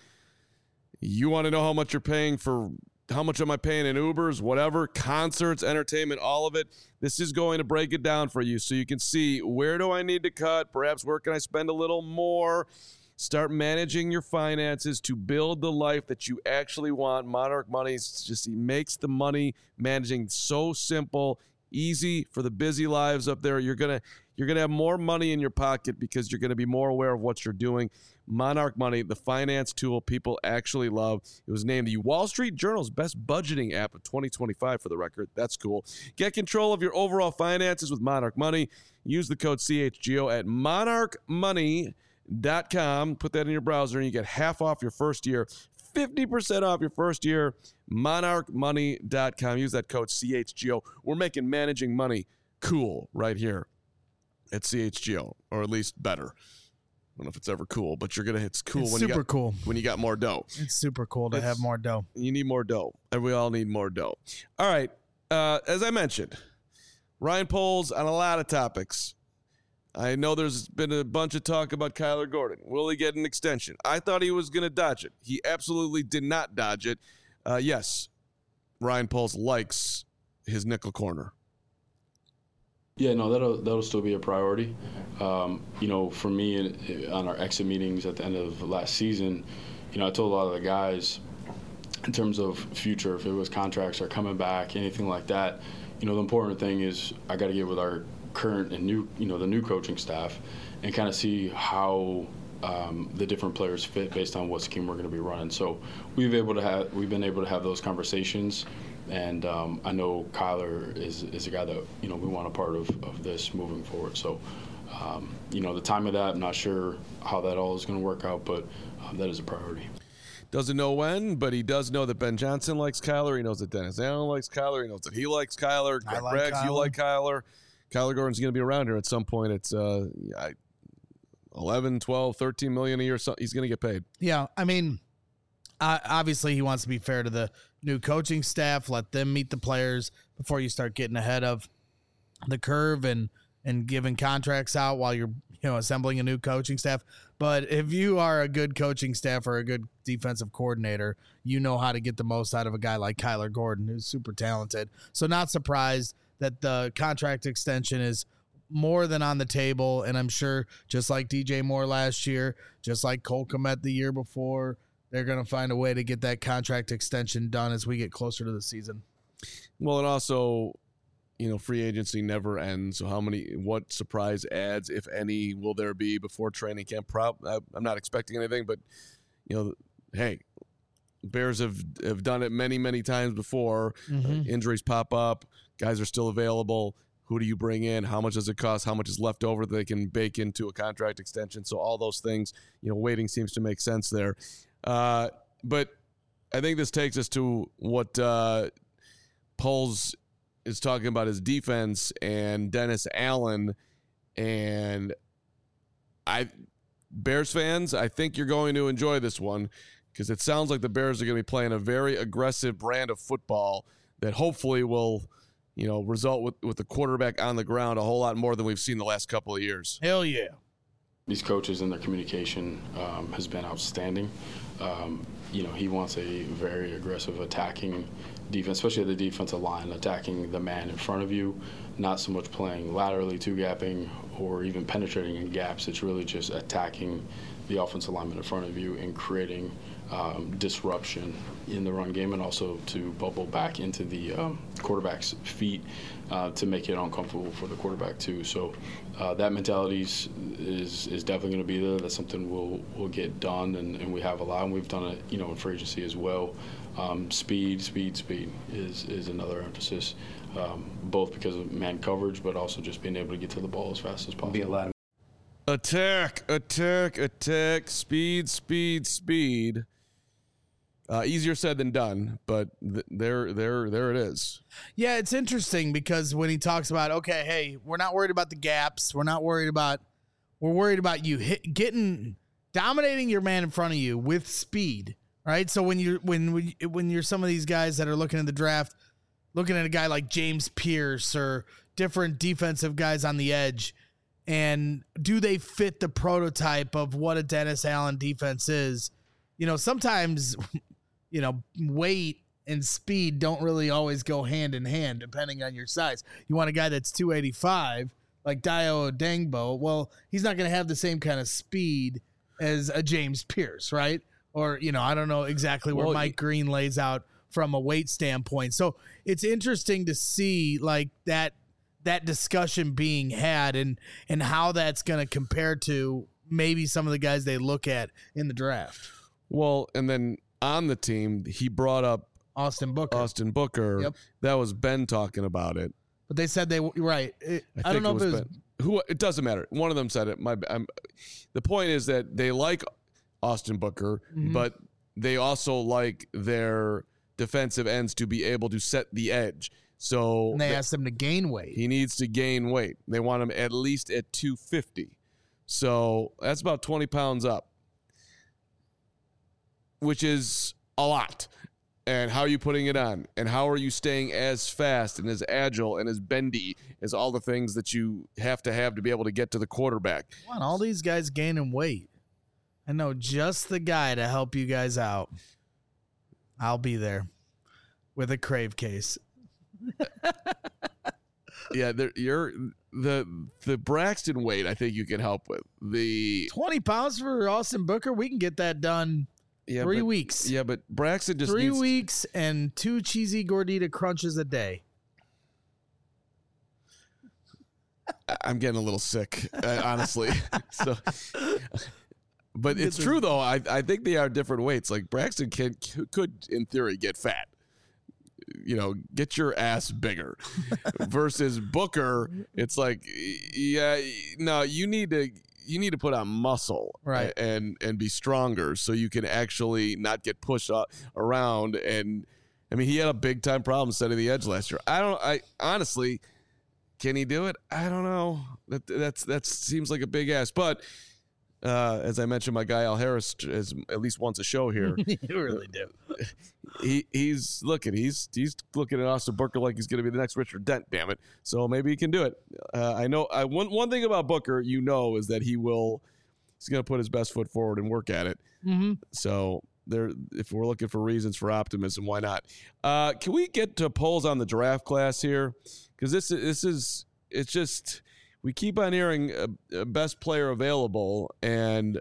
You want to know how much you're paying for, how much am I paying in Ubers, whatever, concerts, entertainment, all of it. This is going to break it down for you so you can see, where do I need to cut? Perhaps where can I spend a little more? Start managing your finances to build the life that you actually want. Monarch Money just makes the money managing so simple, easy for the busy lives up there. You're gonna you're gonna have more money in your pocket because you're gonna be more aware of what you're doing. Monarch Money, the finance tool people actually love. It was named the Wall Street Journal's best budgeting app of twenty twenty-five for the record. That's cool. Get control of your overall finances with Monarch Money. Use the code C H G O at monarch money dot com. Put that in your browser and you get half off your first year. fifty percent off your first year. monarch money dot com. Use that code C H G O. We're making managing money cool right here at C H G O, or at least better. I don't know if it's ever cool, but you're gonna. It's cool It's when super you got, cool. when you got more dough. It's super cool to It's- have more dough. You need more dough, and we all need more dough. All right, uh, as I mentioned, Ryan Poles on a lot of topics. I know there's been a bunch of talk about Kyler Gordon. Will he get an extension? I thought he was going to dodge it. He absolutely did not dodge it. Uh, yes, Ryan Poles likes his nickel corner. Yeah, no, that'll that'll still be a priority. Um, you know, for me, on our exit meetings at the end of last season, you know, I told a lot of the guys, in terms of future, if it was contracts or coming back, anything like that, you know, the important thing is I got to get with our current and new, you know, the new coaching staff, and kind of see how um, the different players fit based on what scheme we're going to be running. So we've able to have we've been able to have those conversations. And um, I know Kyler is, is a guy that, you know, we want a part of, of this moving forward. So, um, you know, the time of that, I'm not sure how that all is going to work out, but um, that is a priority. Doesn't know when, but he does know that Ben Johnson likes Kyler. He knows that Dennis Allen likes Kyler. He knows that he likes Kyler. I Greg like Braggs, Kyler. you like Kyler. Kyler Gordon's going to be around here at some point. It's uh, eleven, twelve, thirteen million a year. So he's going to get paid. Yeah, I mean, uh, obviously he wants to be fair to the new coaching staff. Let them meet the players before you start getting ahead of the curve and and giving contracts out while you're, you know, assembling a new coaching staff. But if you are a good coaching staff or a good defensive coordinator, you know how to get the most out of a guy like Kyler Gordon, who's super talented. So not surprised that the contract extension is more than on the table. And I'm sure just like D J Moore last year, just like Cole Kmet the year before, they're going to find a way to get that contract extension done as we get closer to the season. Well, and also, you know, free agency never ends. So how many, what surprise ads, if any, will there be before training camp? Prob- I'm not expecting anything, but, you know, hey, Bears have, have done it many, many times before. Mm-hmm. Uh, injuries pop up. Guys are still available. Who do you bring in? How much does it cost? How much is left over that they can bake into a contract extension? So all those things, you know, waiting seems to make sense there. Uh, but I think this takes us to what uh, Poles is talking about, his defense and Dennis Allen. And I, Bears fans, I think you're going to enjoy this one because it sounds like the Bears are going to be playing a very aggressive brand of football that hopefully will, you know, result with, with the quarterback on the ground a whole lot more than we've seen the last couple of years. Hell yeah. These coaches and their communication um, has been outstanding. Um, you know, he wants a very aggressive attacking defense, especially the defensive line, attacking the man in front of you, not so much playing laterally, two-gapping, or even penetrating in gaps. It's really just attacking the offensive lineman in front of you and creating um, disruption in the run game, and also to bubble back into the um, quarterback's feet uh, to make it uncomfortable for the quarterback too. So uh, that mentality is, is is definitely going to be there. That's something we'll we'll get done, and, and we have a lot, and we've done it, you know, in free agency as well. Um, speed, speed, speed is is another emphasis, um, both because of man coverage, but also just being able to get to the ball as fast as possible. Be a lot of Attack, attack, attack, speed, speed, speed. Uh, easier said than done, but th- there, there, there it is. Yeah, it's interesting because when he talks about, okay, hey, we're not worried about the gaps. We're not worried about, we're worried about you hit, getting, dominating your man in front of you with speed, right? So when you're, when, when, when you're some of these guys that are looking at the draft, looking at a guy like James Pierce or different defensive guys on the edge, and do they fit the prototype of what a Dennis Allen defense is? You know, sometimes, you know, weight and speed don't really always go hand in hand depending on your size. You want a guy that's two eighty-five like Dio Odengbo. Well, he's not going to have the same kind of speed as a James Pierce, right? Or, you know, I don't know exactly where Well, Mike Green lays out from a weight standpoint. So it's interesting to see like that that discussion being had and and how that's going to compare to maybe some of the guys they look at in the draft. Well, and then on the team, he brought up Austin Booker. Austin Booker. Yep. That was Ben talking about it. But they said they were right. It, I, I, don't think know if it was Ben. Who. It doesn't matter. One of them said it. My. I'm, the point is that they like Austin Booker, Mhm. but they also like their defensive ends to be able to set the edge. So and they th- asked him to gain weight. he needs to gain weight. They want him at least at two fifty. So that's about twenty pounds up, which is a lot. And how are you putting it on? And how are you staying as fast and as agile and as bendy as all the things that you have to have to be able to get to the quarterback? Come on, all these guys gaining weight. I know just the guy to help you guys out. I'll be there with a Crave case. Yeah, there, you're the the Braxton weight. I think you can help with the twenty pounds for Austin Booker. We can get that done. Yeah, Three but, weeks. Yeah, but Braxton just Three needs weeks and two cheesy gordita crunches a day. I'm getting a little sick, uh, honestly. so, but it's true though. I I think they are different weights. Like Braxton can could in theory get fat. You know, get your ass bigger. Versus Booker, it's like, yeah, no, you need to. You need to put on muscle, right, and and be stronger so you can actually not get pushed up around. And I mean, he had a big time problem setting the edge last year. I don't. I honestly, can he do it? I don't know. That that's that seems like a big ask. But uh, as I mentioned, my guy Al Harris is at least once a show here. You really do. He he's looking. He's he's looking at Austin Booker like he's going to be the next Richard Dent. Damn it! So maybe he can do it. Uh, I know. I one one thing about Booker, you know, is that he will. He's going to put his best foot forward and work at it. Mm-hmm. So there, if we're looking for reasons for optimism, why not? Uh, can we get to polls on the draft class here? Because this this is it's just we keep on hearing a, a best player available, and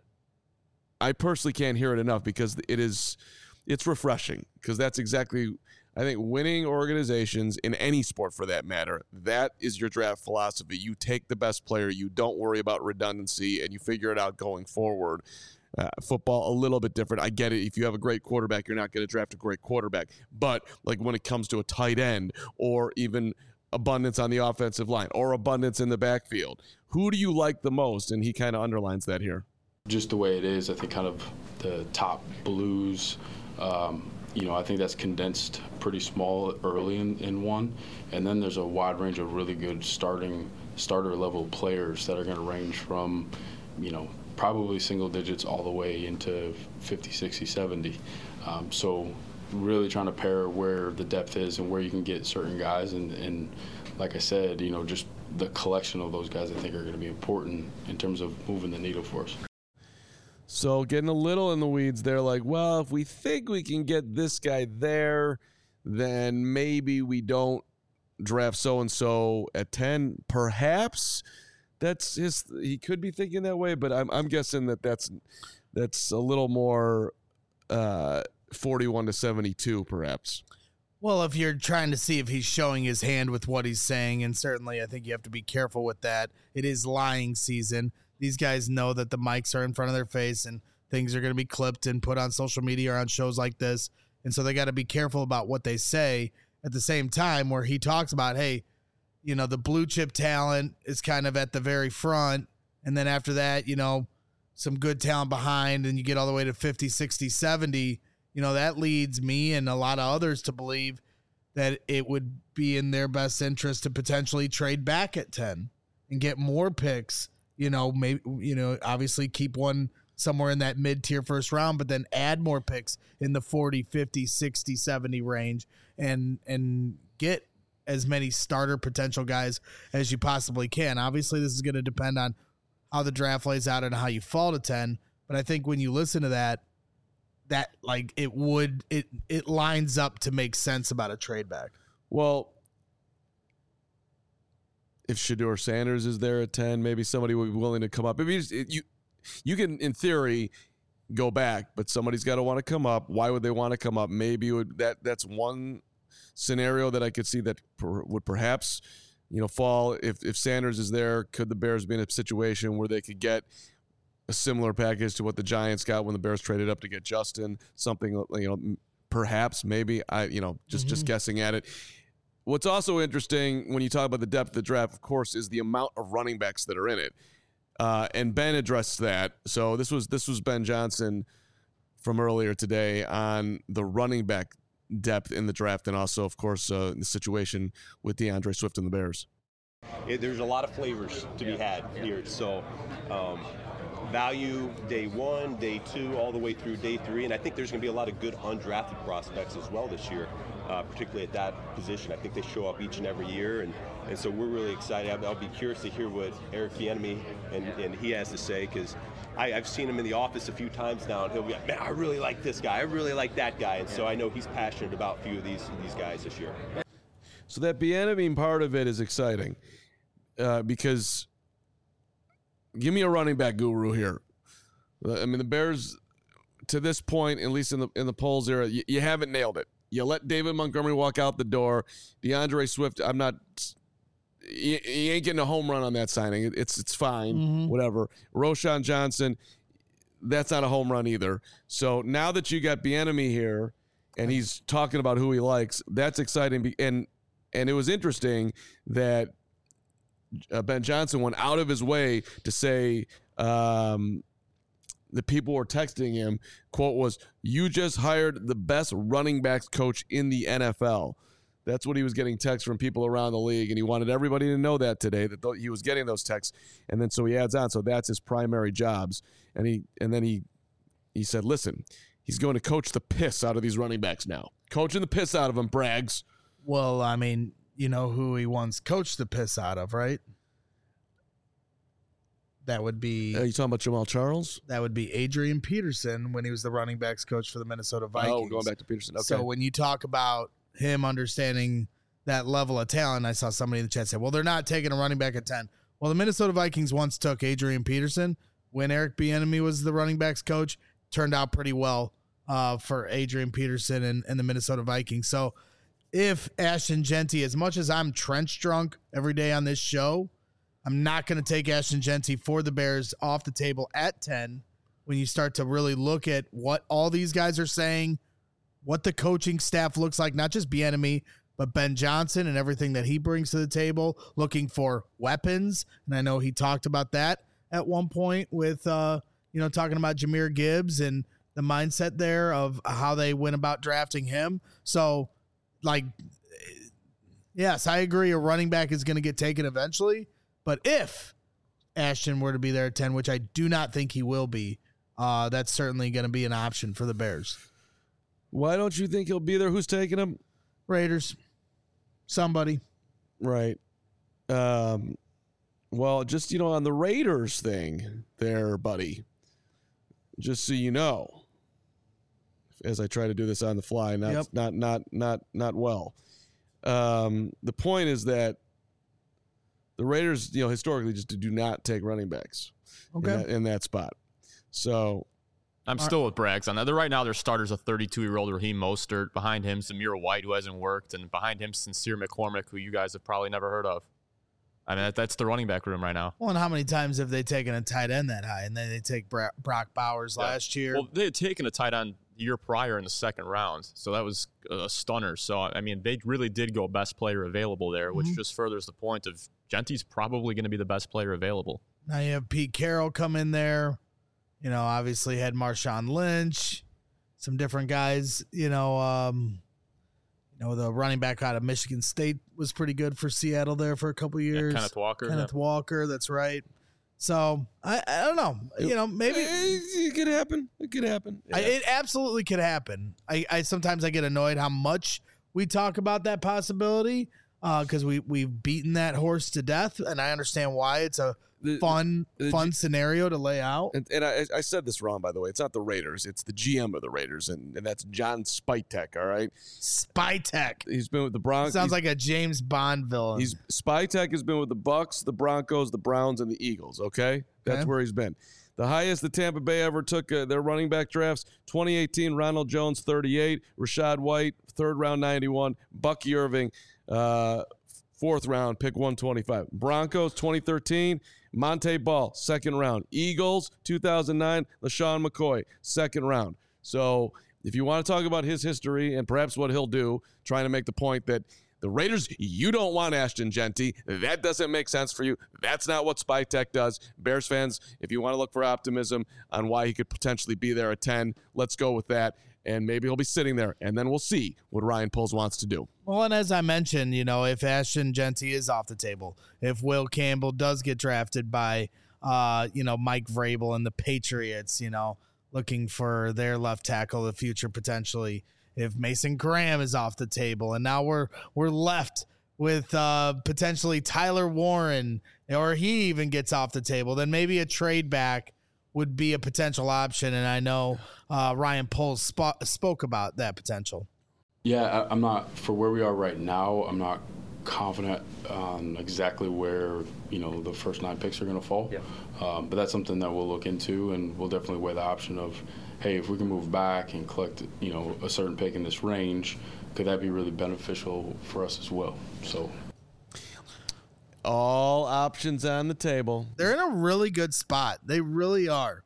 I personally can't hear it enough because it is. It's refreshing because that's exactly, I think, winning organizations in any sport for that matter, that is your draft philosophy. You take the best player, you don't worry about redundancy, and you figure it out going forward. Uh, football, a little bit different. I get it. If you have a great quarterback, you're not going to draft a great quarterback. But like when it comes to a tight end or even abundance on the offensive line or abundance in the backfield, who do you like the most? And he kind of underlines that here. Just the way it is, I think kind of the top blues, Um, you know, I think that's condensed pretty small early in, in one. And then there's a wide range of really good starting starter level players that are going to range from, you know, probably single digits all the way into fifty, sixty, seventy. Um, so really trying to pair where the depth is and where you can get certain guys. And, and like I said, you know, just the collection of those guys I think are going to be important in terms of moving the needle for us. So getting a little in the weeds there, like, well, if we think we can get this guy there, then maybe we don't draft so-and-so at ten. Perhaps that's his, he could be thinking that way, but I'm I'm guessing that that's, that's a little more uh, forty-one to seventy-two, perhaps. Well, if you're trying to see if he's showing his hand with what he's saying, and certainly I think you have to be careful with that. It is lying season. These guys know that the mics are in front of their face and things are going to be clipped and put on social media or on shows like this. And so they got to be careful about what they say at the same time where he talks about, hey, you know, the blue chip talent is kind of at the very front. And then after that, you know, some good talent behind and you get all the way to fifty, sixty, seventy. You know, that leads me and a lot of others to believe that it would be in their best interest to potentially trade back at ten and get more picks. You know, maybe, you know, obviously keep one somewhere in that mid-tier first round, but then add more picks in the forty, fifty, sixty, seventy range and and get as many starter potential guys as you possibly can. Obviously, this is going to depend on how the draft lays out and how you fall to ten, but I think when you listen to that, that like it would it it lines up to make sense about a trade back. Well, if Shedeur Sanders is there at ten, maybe somebody would be willing to come up. I mean, it, you you can, in theory, go back, but somebody's got to want to come up. Why would they want to come up? Maybe it would, that that's one scenario that I could see that per, would perhaps, you know, fall. If if Sanders is there, could the Bears be in a situation where they could get a similar package to what the Giants got when the Bears traded up to get Justin? Something, you know, perhaps, maybe. I, you know, just mm-hmm. just guessing at it. What's also interesting when you talk about the depth of the draft, of course, is the amount of running backs that are in it. Uh, and Ben addressed that. So this was this was Ben Johnson from earlier today on the running back depth in the draft, and also, of course, uh, the situation with DeAndre Swift and the Bears. It, there's a lot of flavors to be had here. So um, value day one, day two, all the way through day three. And I think there's going to be a lot of good undrafted prospects as well this year, uh, particularly at that position. I think they show up each and every year. And, and so we're really excited. I'll, I'll be curious to hear what Eric Bieniemy and, and he has to say, because I've seen him in the office a few times now, and he'll be like, man, I really like this guy. I really like that guy. And so I know he's passionate about a few of these, these guys this year. So that Bieniemy part of it is exciting uh, because give me a running back guru here. I mean, the Bears, to this point, at least in the in the polls era, you, you haven't nailed it. You let David Montgomery walk out the door. DeAndre Swift, I'm not he, he ain't getting a home run on that signing. It's it's fine, mm-hmm. whatever. Roschon Johnson, that's not a home run either. So now that you got Bieniemy here and he's talking about who he likes, that's exciting. And and it was interesting that uh, Ben Johnson went out of his way to say um, the people were texting him, quote was, "You just hired the best running backs coach in the N F L." That's what he was getting texts from people around the league, and he wanted everybody to know that today, that th- he was getting those texts. And then so he adds on, so that's his primary jobs. And he and then he he said, listen, he's going to coach the piss out of these running backs now. Coaching the piss out of them, Braggs. Well, I mean, you know who he once coached the piss out of, right? That would be... Are you talking about Jamal Charles? That would be Adrian Peterson when he was the running backs coach for the Minnesota Vikings. Oh, going back to Peterson. Okay. So when you talk about him understanding that level of talent, I saw somebody in the chat say, well, they're not taking a running back at ten. Well, the Minnesota Vikings once took Adrian Peterson when Eric Bieniemy was the running backs coach. Turned out pretty well uh, for Adrian Peterson and, and the Minnesota Vikings. So if Ashton Jeanty, as much as I'm trench drunk every day on this show, I'm not going to take Ashton Jeanty for the Bears off the table at ten when you start to really look at what all these guys are saying, what the coaching staff looks like, not just Bieniemy, but Ben Johnson and everything that he brings to the table, looking for weapons. And I know he talked about that at one point with, uh, you know, talking about Jahmyr Gibbs and the mindset there of how they went about drafting him. So, like, yes, I agree a running back is going to get taken eventually. But if Ashton were to be there at ten, which I do not think he will be, uh, that's certainly going to be an option for the Bears. Why don't you think he'll be there? Who's taking him? Raiders. Somebody. Right. Um, well, just, you know, on the Raiders thing there, buddy, just so you know, as I try to do this on the fly, not yep. not not not not well. Um, the point is that the Raiders, you know, historically just do not take running backs okay. in, that, in that spot. So I'm still with Braggs on that. They're, right now, their starter's a thirty-two-year-old Raheem Mostert. Behind him, Zamir White, who hasn't worked. And behind him, Sincere McCormick, who you guys have probably never heard of. I mean, that, that's the running back room right now. Well, and how many times have they taken a tight end that high? And then they take Bra- Brock Bowers yeah. last year. Well, they had taken a tight end the year prior in the second round. So that was a stunner. So, I mean, they really did go best player available there, which mm-hmm. just furthers the point of Genty's probably going to be the best player available. Now you have Pete Carroll come in there. You know, obviously had Marshawn Lynch, some different guys. You know, um, you know the running back out of Michigan State was pretty good for Seattle there for a couple years. Yeah, Kenneth Walker. Kenneth yeah. Walker, that's right. So I, I don't know. You know, maybe it could happen. It could happen. Yeah. I, it absolutely could happen. I, I sometimes I get annoyed how much we talk about that possibility because uh, we we've beaten that horse to death, and I understand why. It's a The, fun, the, fun scenario to lay out. And, and I, I said this wrong, by the way. It's not the Raiders. It's the G M of the Raiders, and, and that's John Spytek, all right? Spytek. He's been with the Broncos. Sounds like a James Bond villain. He's Spytek has been with the Bucks, the Broncos, the Browns, and the Eagles, okay? That's okay. where he's been. The highest the Tampa Bay ever took uh, their running back drafts, twenty eighteen, Ronald Jones, thirty-eight, Rashad White, third round, ninety-one, Bucky Irving, uh, fourth round, pick one twenty-five. Broncos, twenty thirteen, Monte Ball, second round. Eagles, two thousand nine, LaShawn McCoy, second round. So if you want to talk about his history and perhaps what he'll do, trying to make the point that the Raiders, you don't want Ashton Jeanty. That doesn't make sense for you. That's not what Spytek does. Bears fans, if you want to look for optimism on why he could potentially be there at ten, let's go with that. And maybe he'll be sitting there, and then we'll see what Ryan Poles wants to do. Well, and as I mentioned, you know, if Ashton Jeanty is off the table, if Will Campbell does get drafted by uh, you know, Mike Vrabel and the Patriots, you know, looking for their left tackle of the future potentially. If Mason Graham is off the table, and now we're we're left with uh, potentially Tyler Warren, or he even gets off the table, then maybe a trade back would be a potential option. And I know uh, Ryan Poles sp- spoke about that potential. Yeah, I, I'm not, for where we are right now, I'm not confident on exactly where, you know, the first nine picks are going to fall. Yeah. Um, but that's something that we'll look into, and we'll definitely weigh the option of, hey, if we can move back and collect, you know, a certain pick in this range, could that be really beneficial for us as well? So all options on the table. They're in a really good spot. They really are.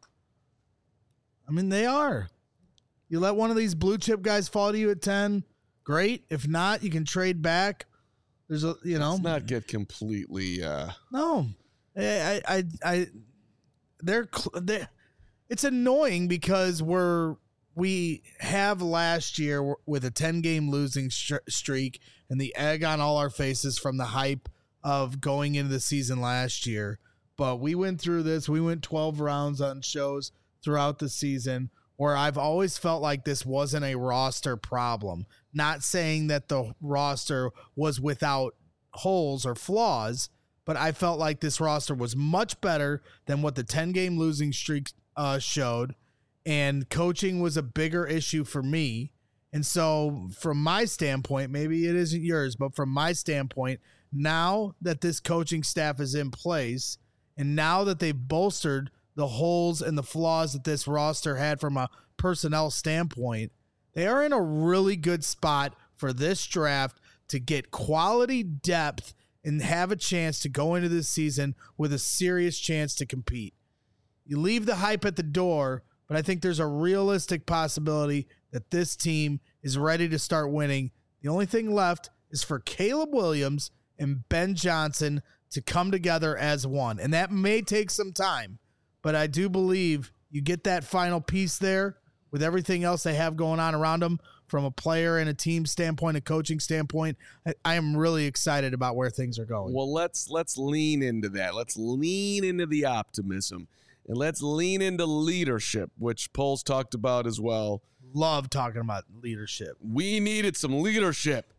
I mean, they are. You let one of these blue chip guys fall to you at ten, great. If not, you can trade back. There's a, you know, Let's not get completely. Uh... No, I, I, I, they're, they it's annoying because we're, we have last year with a ten game losing streak and the egg on all our faces from the hype of going into the season last year. But we went through this. We went twelve rounds on shows throughout the season where I've always felt like this wasn't a roster problem. Not saying that the roster was without holes or flaws, but I felt like this roster was much better than what the ten game losing streak uh, showed. And coaching was a bigger issue for me. And so from my standpoint, maybe it isn't yours, but from my standpoint, now that this coaching staff is in place and now that they've bolstered the holes and the flaws that this roster had from a personnel standpoint, they are in a really good spot for this draft to get quality depth and have a chance to go into this season with a serious chance to compete. You leave the hype at the door, but I think there's a realistic possibility that this team is ready to start winning. The only thing left is for Caleb Williams and Ben Johnson to come together as one. And that may take some time, but I do believe you get that final piece there with everything else they have going on around them from a player and a team standpoint, a coaching standpoint. I, I am really excited about where things are going. Well, let's let's lean into that. Let's lean into the optimism. And let's lean into leadership, which Poles talked about as well. Love talking about leadership. We needed some leadership.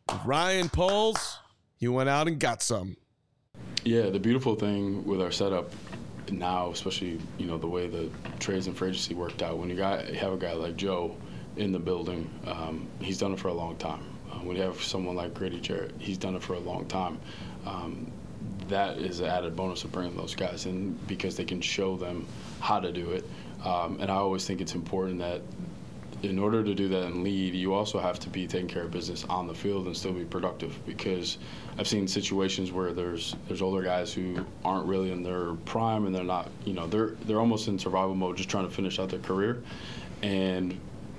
Ryan Poles, he went out and got some. Yeah, the beautiful thing with our setup now, especially, you know, the way the trades and free agency worked out, when you got have a guy like Joe in the building, um, he's done it for a long time. Uh, when you have someone like Grady Jarrett, he's done it for a long time. Um, that is an added bonus of bringing those guys in because they can show them how to do it. Um, and I always think it's important that in order to do that and lead, you also have to be taking care of business on the field and still be productive, because I've seen situations where there's there's older guys who aren't really in their prime and they're not, you know, they're they're almost in survival mode, just trying to finish out their career, and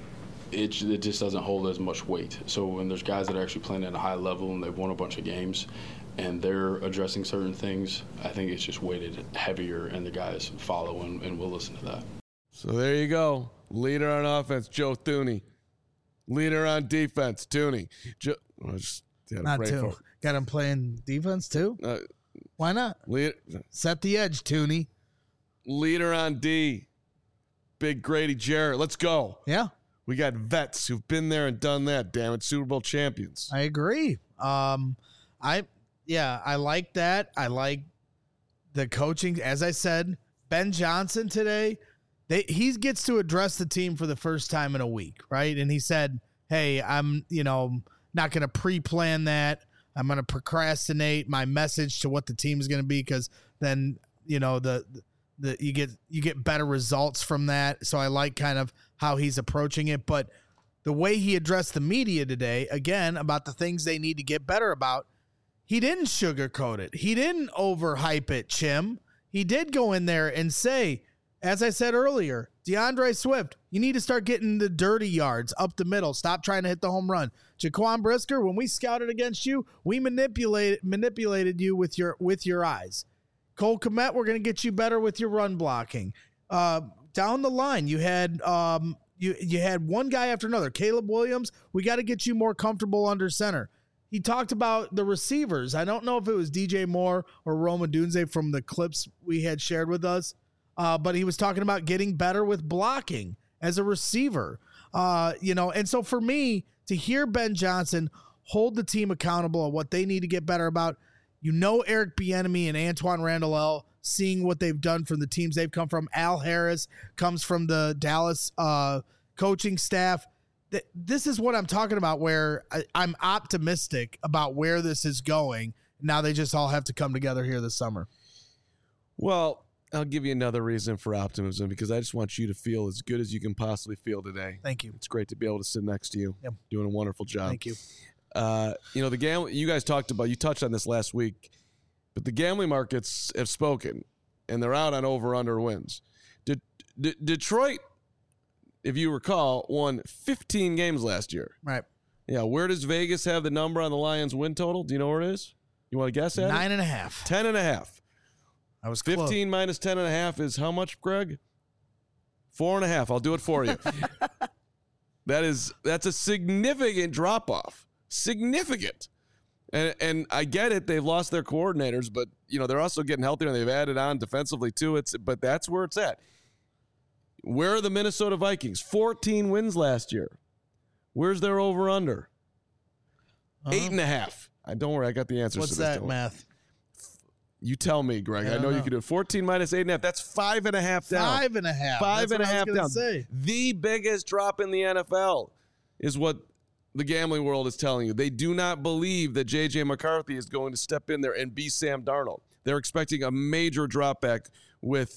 it, it just doesn't hold as much weight. So when there's guys that are actually playing at a high level and they've won a bunch of games and they're addressing certain things, I think it's just weighted heavier and the guys follow and, and we'll listen to that. So there you go. Leader on offense, Joe Thuney. Leader on defense, Thuney. Jo- oh, just, not too. Got him playing defense too? Uh, Why not? Leader, Set the edge, Thuney. Leader on D, Big Grady Jarrett. Let's go. Yeah. We got vets who've been there and done that. Damn it, Super Bowl champions. I agree. Um, I yeah, I like that. I like the coaching. As I said, Ben Johnson today, they he gets to address the team for the first time in a week, right? And he said, "Hey, I'm you know not going to pre-plan that. I'm going to procrastinate my message to what the team is going to be because then you know the." The, you get you get better results from that. So I like kind of how he's approaching it. But the way he addressed the media today, again, about the things they need to get better about, he didn't sugarcoat it. He didn't overhype it, Chim. He did go in there and say, as I said earlier, DeAndre Swift, you need to start getting the dirty yards up the middle. Stop trying to hit the home run. Jaquan Brisker, when we scouted against you, we manipulated manipulated you with your with your eyes. Cole Kmet, we're going to get you better with your run blocking. Uh, down the line, you had um, you you had one guy after another. Caleb Williams, we got to get you more comfortable under center. he talked about the receivers. I don't know if it was D J Moore or Rome Odunze from the clips we had shared with us, uh, but he was talking about getting better with blocking as a receiver. Uh, you know, and so for me to hear Ben Johnson hold the team accountable on what they need to get better about, you know, Eric Bieniemy and Antoine Randall, seeing what they've done from the teams they've come from. Al Harris comes from the Dallas uh, coaching staff. This is what I'm talking about, where I, I'm optimistic about where this is going. Now they just all have to come together here this summer. Well, I'll give you another reason for optimism, because I just want you to feel as good as you can possibly feel today. Thank you. It's great to be able to sit next to you. Yep. Doing a wonderful job. Thank you. Uh, you know, the gam- you guys talked about, you touched on this last week, but the gambling markets have spoken, and they're out on over-under wins. De- De- Detroit, if you recall, won fifteen games last year. Right. Yeah, where does Vegas have the number on the Lions win total? Do you know where it is? You want to guess at Nine it? and a half. Ten and a half. I was fifteen close. minus ten and a half is how much, Greg? Four and a half. I'll do it for you. that is that's a significant drop off. Significant. And and I get it. They've lost their coordinators, but you know they're also getting healthier, and they've added on defensively too. It's but that's where it's at. Where are the Minnesota Vikings? fourteen wins last year. Where's their over under? Uh-huh. Eight and a half. I don't worry. I got the answers. What's to this. that Don't- math? You tell me, Greg. I I, know, don't you know. can do it. fourteen minus eight and a half. That's five and a half down. Five and a half. Five That's and a what I was half gonna down. Say. The biggest drop in the N F L is what the gambling world is telling you. They do not believe that J J McCarthy is going to step in there and be Sam Darnold. They're expecting a major drop back with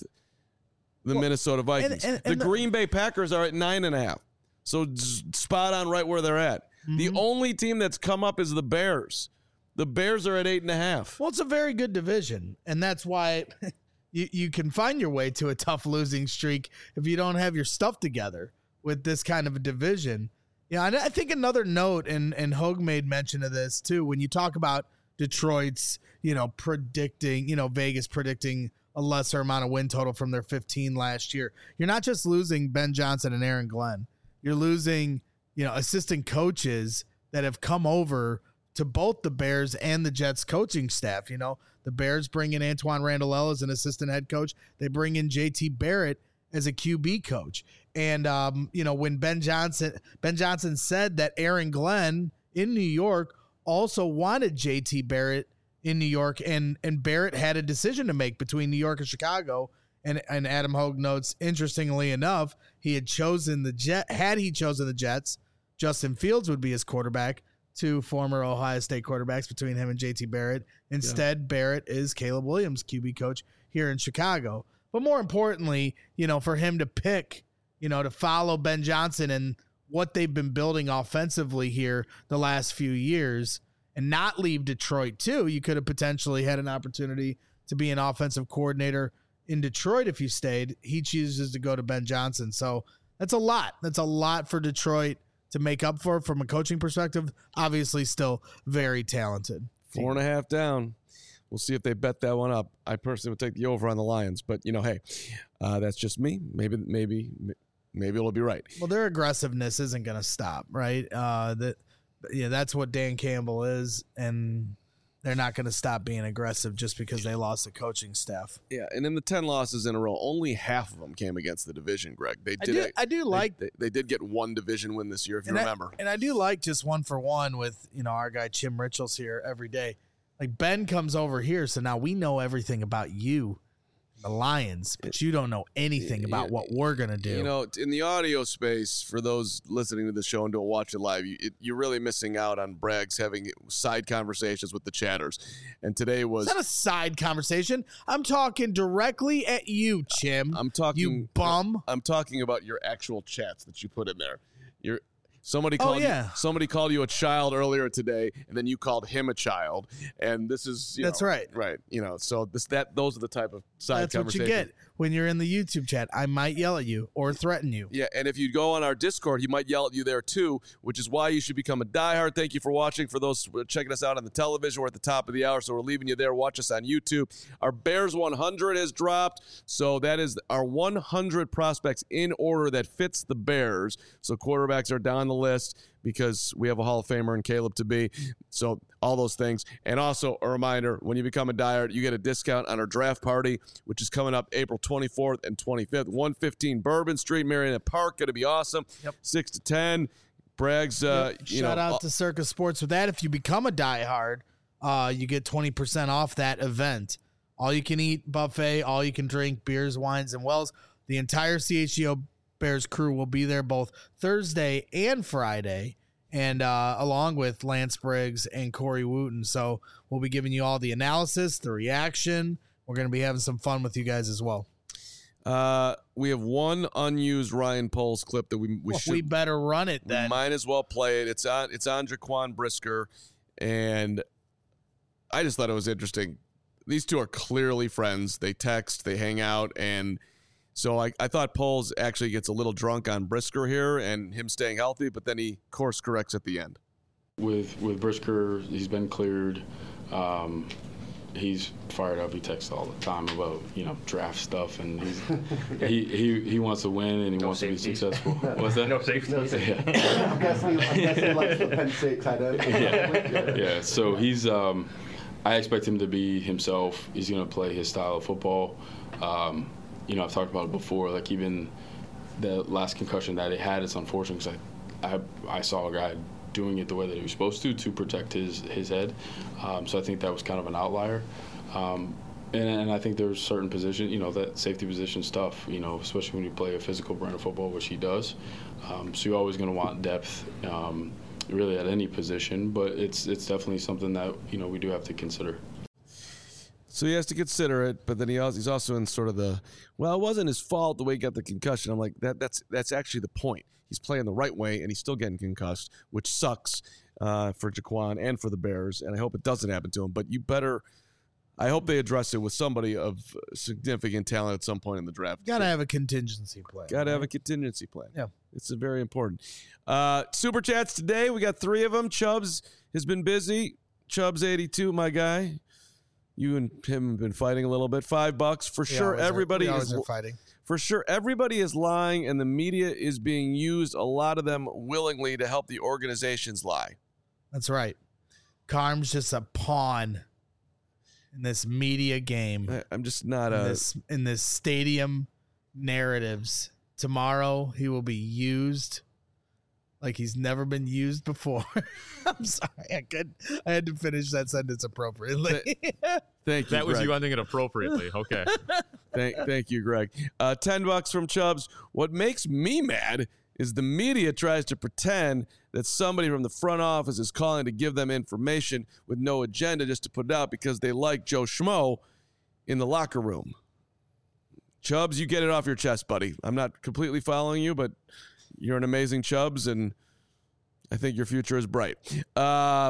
the Well, Minnesota Vikings. and- and the the- Green Bay Packers are at nine and a half. So z- spot on right where they're at. The Mm-hmm. only team that's come up is the Bears. The Bears are at eight and a half. Well, it's a very good division, and that's why you, you can find your way to a tough losing streak if you don't have your stuff together with this kind of a division. Yeah, and I think another note, and and Hogue made mention of this too, when you talk about Detroit's, you know, predicting, you know, Vegas predicting a lesser amount of win total from their fifteen last year. You're not just losing Ben Johnson and Aaron Glenn. You're losing, you know, assistant coaches that have come over to both the Bears and the Jets coaching staff. You know, the Bears bring in Antoine Randall as an assistant head coach. They bring in J T Barrett as a Q B coach. And, um, you know, when Ben Johnson, Ben Johnson said that Aaron Glenn in New York also wanted J T Barrett in New York, and, and Barrett had a decision to make between New York and Chicago. And, and Adam Hogue notes, interestingly enough, he had chosen the Jet. Had he chosen the Jets, Justin Fields would be his quarterback. Two former Ohio State quarterbacks between him and J T Barrett. Instead, yeah. Barrett is Caleb Williams' Q B coach here in Chicago. But more importantly, you know, for him to pick, you know, to follow Ben Johnson and what they've been building offensively here the last few years and not leave Detroit too, you could have potentially had an opportunity to be an offensive coordinator in Detroit if you stayed. He chooses to go to Ben Johnson. So that's a lot. That's a lot for Detroit to make up for from a coaching perspective. Obviously still very talented. Four and a half down. We'll see if they bet that one up. I personally would take the over on the Lions, but you know, hey, uh, that's just me. Maybe, maybe, maybe it'll be right. Well, their aggressiveness isn't going to stop, right? Uh, that, yeah, that's what Dan Campbell is, and they're not going to stop being aggressive just because they lost the coaching staff. Yeah, and in the ten losses in a row, only half of them came against the division, Greg. They I did. do, a, I do they, like, they, they did get one division win this year, if you and remember. I, and I do like just one for one with, you know, our guy Chim Richels here every day. Like Ben comes over here, so now we know everything about you, the Lions, but you don't know anything about what we're gonna do. You know, in the audio space, for those listening to the show and don't watch it live, you, it, you're really missing out on Braggs having side conversations with the chatters. And today was It's not a side conversation. I'm talking directly at you, Chim. I'm talking you bum. I'm talking about your actual chats that you put in there. You're Somebody Oh, called yeah. you, somebody called you a child earlier today, and then you called him a child. And this is you That's know, right. right? You know, so this that those are the type of side That's what you conversations. get when you're in the YouTube chat. I might yell at you or threaten you. Yeah, and if you go on our Discord, he might yell at you there too, which is why you should become a diehard. Thank you for watching. For those checking us out on the television, we're at the top of the hour, so we're leaving you there. Watch us on YouTube. Our Bears one hundred has dropped, so that is our one hundred prospects in order that fits the Bears. So quarterbacks are down the list. because we have a Hall of Famer in Caleb to be. So all those things. And also a reminder, when you become a diehard, you get a discount on our draft party, which is coming up April twenty-fourth and twenty-fifth. one fifteen Bourbon Street, Marietta Park. Going to be awesome. Yep. six to ten. Bragg's, uh, yep. you Shout know, out to Circus Sports with that. If you become a diehard, uh, you get twenty percent off that event. All you can eat buffet, all you can drink, beers, wines, and wells. The entire C H G O Bears crew will be there both Thursday and Friday, and uh, along with Lance Briggs and Corey Wooten. So we'll be giving you all the analysis, the reaction. We're going to be having some fun with you guys as well. Uh, we have one unused Ryan Poles clip that we we well, should we better run it then. We might as well play it. It's on it's on Jaquan Brisker, and I just thought it was interesting. These two are clearly friends. They text, they hang out, and so I, I thought Poles actually gets a little drunk on Brisker here and him staying healthy, but then he course corrects at the end. With with Brisker, he's been cleared. Um, he's fired up. He texts all the time about, you know, draft stuff, and he's he, he he wants to win and he No wants safety. to be successful. What's that? No safety. Yeah. I'm guessing, I'm guessing he likes the Penn State tight end. Yeah. Yeah. So he's. Um, I expect him to be himself. He's going to play his style of football. Um, you know, I've talked about it before. Like even the last concussion that he had, it's unfortunate because I, I I saw a guy doing it the way that he was supposed to to protect his his head. Um, so I think that was kind of an outlier. Um, and, and I think there's certain position, you know, that safety position stuff, you know, especially when you play a physical brand of football, which he does. Um, so you're always going to want depth. Um, really at any position, but it's it's definitely something that, you know, we do have to consider. So he has to consider it, but then he also, he's also in sort of the, well, it wasn't his fault the way he got the concussion. I'm like, that that's that's actually the point. He's playing the right way, and he's still getting concussed, which sucks uh, for Jaquan and for the Bears, and I hope it doesn't happen to him. But you better, I hope they address it with somebody of significant talent at some point in the draft. Got to have a contingency plan. Got to right? have a contingency plan. Yeah. It's a very important. Uh, Super Chats today. We got three of them. Chubbs has been busy. Chubbs eighty-two, my guy. You and him have been fighting a little bit. Five bucks for We sure. always are- Everybody we always is are fighting. for sure. Everybody is lying, and the media is being used. A lot of them willingly to help the organizations lie. That's right. Carm's just a pawn in this media game. I, I'm just not in a. this in this stadium narratives. Tomorrow he will be used like he's never been used before. I'm sorry, I could I had to finish that sentence appropriately. Thank you. That was Greg. you ending it appropriately. Okay. Thank, thank you, Greg. Uh, Ten bucks from Chubbs. What makes me mad is the media tries to pretend that somebody from the front office is calling to give them information with no agenda just to put it out because they like Joe Schmo in the locker room. Chubbs, you get it off your chest, buddy. I'm not completely following you, but you're an amazing Chubbs, and I think your future is bright. Uh,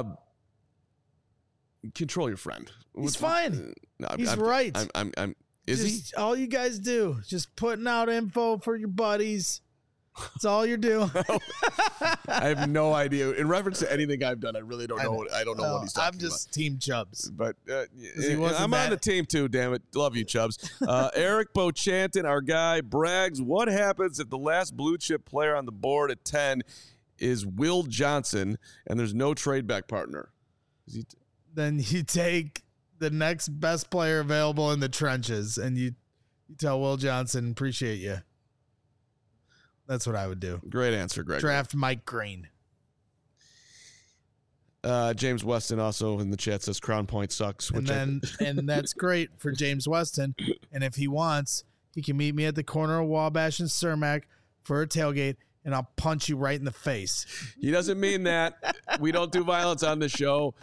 control your friend. He's What's- fine. No, I'm- He's I'm- right. I'm, I'm, I'm, is he? just, all you guys do, just putting out info for your buddies. That's all you're doing. I have no idea. In reference to anything I've done, I really don't I know. know. What, I don't know Well, what he's talking I'm just Team Chubbs. about. But uh, he wasn't I'm on that- the team too. Damn it, love you, Chubbs. Uh, Eric Bochanton, our guy, brags. What happens if the last blue chip player on the board at ten is Will Johnson and there's no trade back partner? Is he t- Then you take the next best player available in the trenches, and you, you tell Will Johnson, appreciate you. That's what I would do. Great answer, Greg. Draft Mike Green. Uh, James Weston also in the chat says Crown Point sucks. And Which I- then and that's great for James Weston. And if he wants, he can meet me at the corner of Wabash and Cermak for a tailgate, and I'll punch you right in the face. he doesn't mean that. We don't do violence on this show.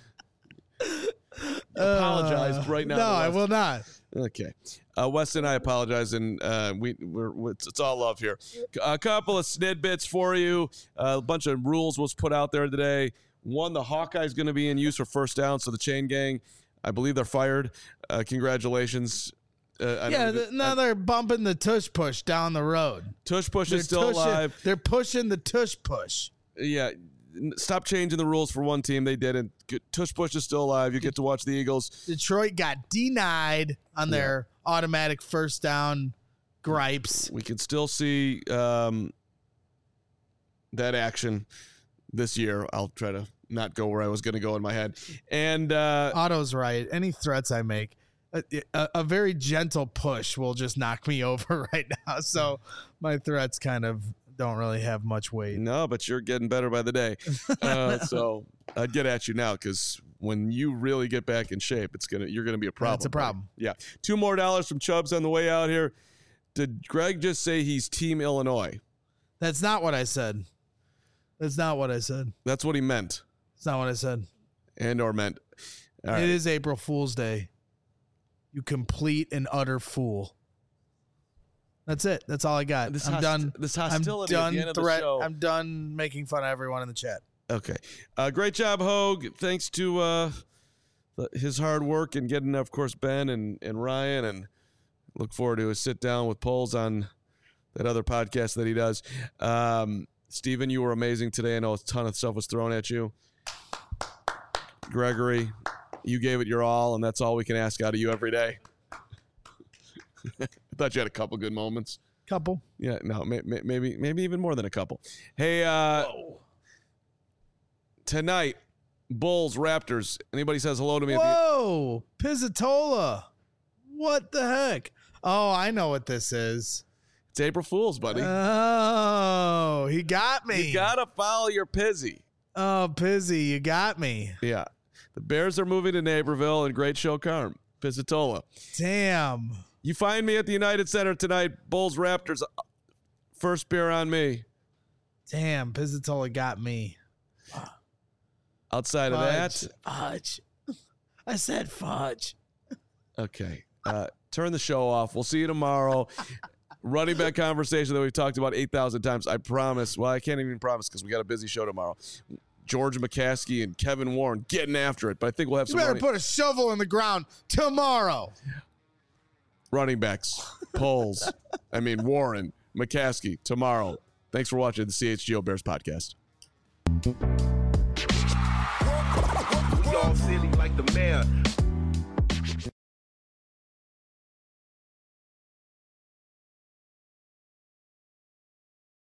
Apologize Uh, right now. No, to I Weston. will not. Okay. Uh, Weston, I apologize, and uh, we, we're, we're it's, it's all love here. A couple of snidbits for you. Uh, a bunch of rules was put out there today. One, the Hawkeye's going to be in use for first down, so the chain gang, I believe they're fired. Uh, congratulations. Uh, I Yeah, don't- th- now they're bumping the tush push down the road. Tush Push They're is still tushing- alive. They're pushing the tush push. Yeah. n- Stop changing the rules for one team. They didn't. Good- Tush Push is still alive. You get to watch the Eagles. Detroit got denied on their automatic first down gripes. We can still see um, that action. this year. I'll try to not go where I was going to go in my head. And uh, Otto's right. Any threats I make, a, a, a very gentle push will just knock me over right now. So my threats kind of don't really have much weight. No, but you're getting better by the day. Uh, so I'd get at you now because when you really get back in shape, it's gonna you're gonna be a problem. It's a problem. Buddy. Yeah. Two more dollars from Chubbs on the way out here. Did Greg just say he's Team Illinois? That's not what I said. That's not what I said. That's what he meant. It's not what I said. And or meant. All right. It is April Fool's Day. You complete and utter fool. That's it. That's all I got. This I'm host- done. this hostility I'm at done the end of the threat. show. I'm done making fun of everyone in the chat. Okay. Uh, great job, Hogue. Thanks to uh, his hard work and getting, of course, Ben and, and Ryan. And look forward to a sit down with Poles on that other podcast that he does. Um, Steven, you were amazing today. I know a ton of stuff was thrown at you. Gregory, you gave it your all, and that's all we can ask out of you every day. I thought you had a couple good moments. Couple. Yeah, no, may, may, maybe maybe even more than a couple. Hey, uh, tonight, Bulls, Raptors. Anybody says hello to me? Whoa, Pizzatola. What the heck? Oh, I know what this is. It's April Fool's, buddy. Oh, he got me. You got to follow your Pizzy. Oh, Pizzy, you got me. Yeah. The Bears are moving to Naperville, and great show, Carm. Pizzatola. Damn. You find me at the United Center tonight. Bulls, Raptors. First beer on me. Damn, Pizzatola got me. Outside Fudge. of that. Fudge. I said fudge. Okay. Uh, turn the show off. We'll see you tomorrow. Running back conversation that we've talked about eight thousand times. I promise. Well, I can't even promise because we got a busy show tomorrow. George McCaskey and Kevin Warren getting after it. But I think we'll have You some better running, put a shovel in the ground tomorrow. running backs, polls. I mean, Warren, McCaskey tomorrow. Thanks for watching the C H G O Bears podcast. We all silly like the mayor.